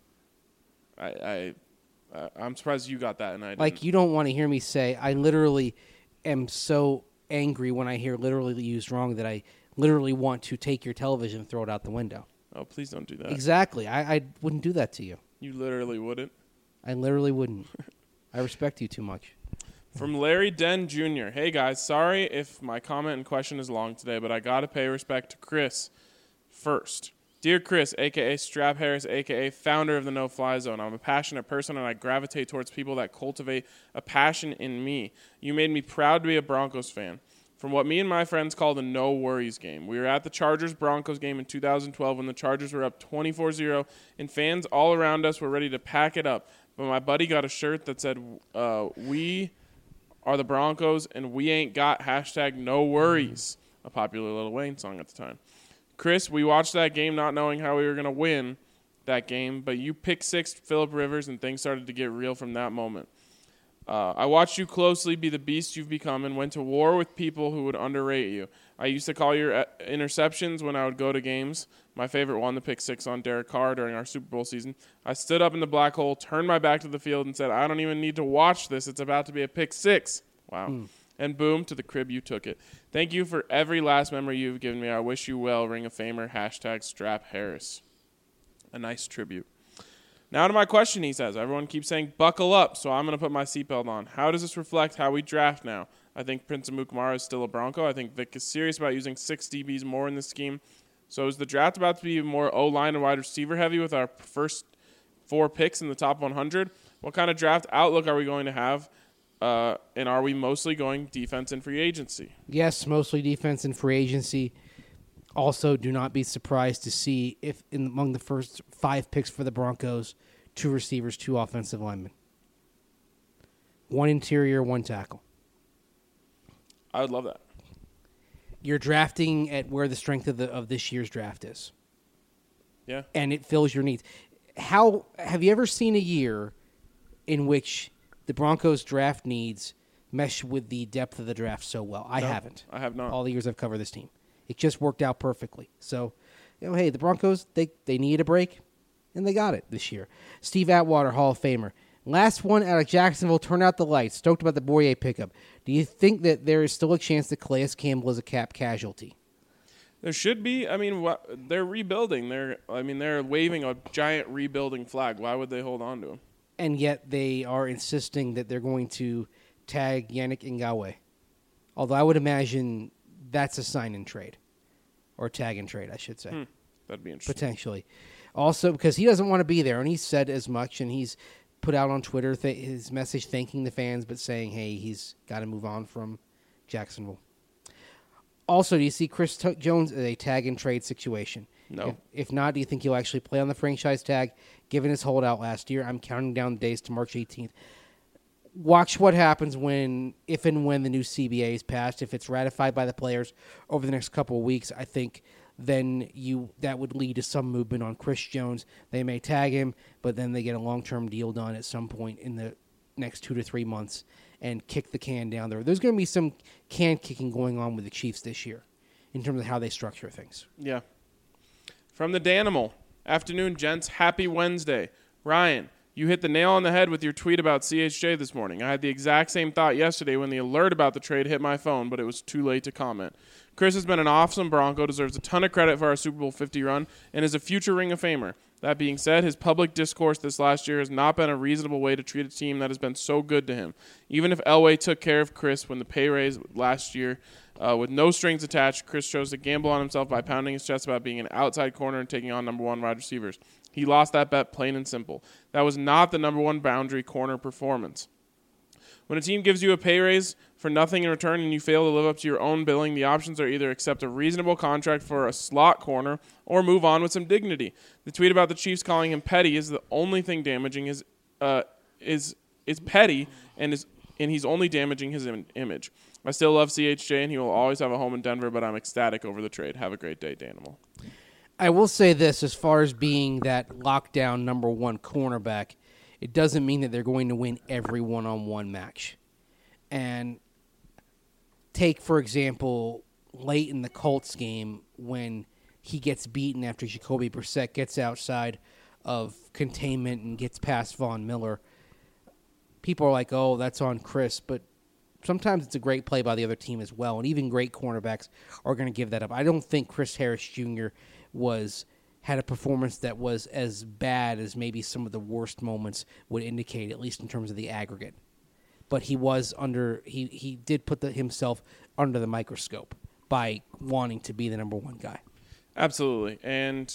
I'm surprised you got that and I didn't. Like, you don't want to hear me say, I literally am so angry when I hear literally used wrong that I literally want to take your television and throw it out the window. Oh, please don't do that. Exactly. I wouldn't do that to you. You literally wouldn't? I literally wouldn't. I respect you too much. From Larry Den Jr. Hey, guys. Sorry if my comment and question is long today, but I got to pay respect to Chris first. Dear Chris, a.k.a. Strap Harris, a.k.a. founder of the No Fly Zone, I'm a passionate person, and I gravitate towards people that cultivate a passion in me. You made me proud to be a Broncos fan. From what me and my friends call the no worries game. We were at the Chargers-Broncos game in 2012 when the Chargers were up 24-0, and fans all around us were ready to pack it up. But my buddy got a shirt that said, we are the Broncos, and we ain't got #NoWorries, a popular Lil Wayne song at the time. Chris, we watched that game not knowing how we were going to win that game, but you picked 6 Phillip Rivers, and things started to get real from that moment. I watched you closely be the beast you've become and went to war with people who would underrate you. I used to call your interceptions when I would go to games. My favorite one, the pick 6 on Derek Carr during our Super Bowl season. I stood up in the black hole, turned my back to the field, and said, I don't even need to watch this. It's about to be a pick 6. Wow. And boom, to the crib you took it. Thank you for every last memory you've given me. I wish you well. Ring of Famer, #StrapHarris. A nice tribute. Now to my question, he says. Everyone keeps saying buckle up, so I'm going to put my seatbelt on. How does this reflect how we draft now? I think Prince Amukamara is still a Bronco. I think Vic is serious about using 6 DBs more in this scheme. So is the draft about to be more O-line and wide receiver heavy with our first 4 picks in the top 100? What kind of draft outlook are we going to have? And are we mostly going defense and free agency? Yes, mostly defense and free agency. Also, do not be surprised to see if among the first 5 picks for the Broncos, 2 receivers, 2 offensive linemen. 1 interior, 1 tackle. I would love that. You're drafting at where the strength of this year's draft is. Yeah. And it fills your needs. How have you ever seen a year in which the Broncos draft needs mesh with the depth of the draft so well? I haven't. I have not. All the years I've covered this team. It just worked out perfectly. So, hey, the Broncos, they need a break, and they got it this year. Steve Atwater, Hall of Famer. Last one out of Jacksonville, turn out the lights. Stoked about the Boyer pickup. Do you think that there is still a chance that Calais Campbell is a cap casualty? There should be. I mean, they're rebuilding. They're waving a giant rebuilding flag. Why would they hold on to him? And yet they are insisting that they're going to tag Yannick Ngakoue. Although I would imagine that's a sign-and-trade. Or tag-and-trade, I should say. That'd be interesting. Potentially. Also, because he doesn't want to be there, and he's said as much, and he's put out on Twitter his message thanking the fans, but saying, hey, he's got to move on from Jacksonville. Also, do you see Chris Jones as a tag-and-trade situation? No. If not, do you think he'll actually play on the franchise tag, given his holdout last year? I'm counting down the days to March 18th. Watch what happens if and when the new CBA is passed. If it's ratified by the players over the next couple of weeks, I think then that would lead to some movement on Chris Jones. They may tag him, but then they get a long-term deal done at some point in the next 2 to 3 months and kick the can down there. There's going to be some can kicking going on with the Chiefs this year in terms of how they structure things. Yeah. From the Danimal. Afternoon, gents. Happy Wednesday. Ryan, you hit the nail on the head with your tweet about CHJ this morning. I had the exact same thought yesterday when the alert about the trade hit my phone, but it was too late to comment. Chris has been an awesome Bronco, deserves a ton of credit for our Super Bowl 50 run, and is a future Ring of Famer. That being said, his public discourse this last year has not been a reasonable way to treat a team that has been so good to him. Even if Elway took care of Chris when the pay raise last year, with no strings attached, Chris chose to gamble on himself by pounding his chest about being an outside corner and taking on number 1 wide receivers. He lost that bet plain and simple. That was not the number 1 boundary corner performance. When a team gives you a pay raise for nothing in return and you fail to live up to your own billing, the options are either accept a reasonable contract for a slot corner or move on with some dignity. The tweet about the Chiefs calling him petty is the only thing damaging is petty and he's only damaging his image. I still love CHJ and he will always have a home in Denver, but I'm ecstatic over the trade. Have a great day, Danimal. I will say this, as far as being that lockdown number 1 cornerback, it doesn't mean that they're going to win every one-on-one match. And take, for example, late in the Colts game when he gets beaten after Jacoby Brissett gets outside of containment and gets past Von Miller. People are like, oh, that's on Chris, but sometimes it's a great play by the other team as well, and even great cornerbacks are going to give that up. I don't think Chris Harris Jr. had a performance that was as bad as maybe some of the worst moments would indicate, at least in terms of the aggregate. But he was he did put himself under the microscope by wanting to be the number 1 guy. Absolutely. And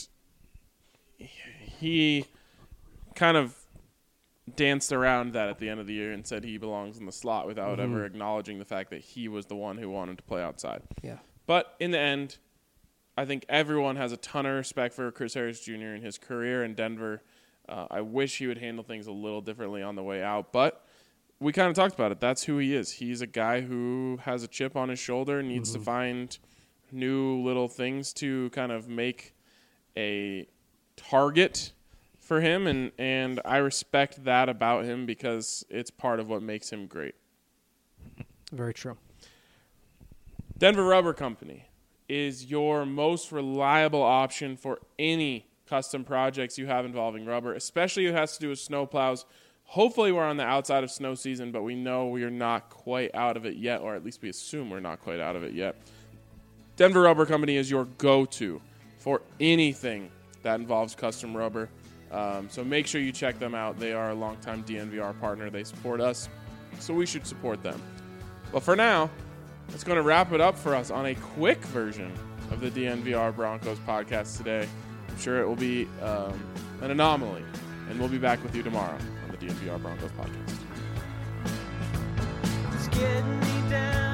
he kind of danced around that at the end of the year and said he belongs in the slot without ever acknowledging the fact that he was the one who wanted to play outside. Yeah. But in the end, I think everyone has a ton of respect for Chris Harris Jr. and his career in Denver. I wish he would handle things a little differently on the way out, but we kind of talked about it. That's who he is. He's a guy who has a chip on his shoulder, needs to find new little things to kind of make a target for him, and I respect that about him because it's part of what makes him great. Very true. Denver Rubber Company is your most reliable option for any custom projects you have involving rubber, especially if it has to do with snow plows. Hopefully we're on the outside of snow season, but we know we are not quite out of it yet, or at least we assume we're not quite out of it yet. Denver Rubber Company is your go-to for anything that involves custom rubber. So make sure you check them out. They are a longtime DNVR partner. They support us, so we should support them. But for now, that's going to wrap it up for us on a quick version of the DNVR Broncos podcast today. I'm sure it will be an anomaly, and we'll be back with you tomorrow on the DNVR Broncos podcast. It's getting me down.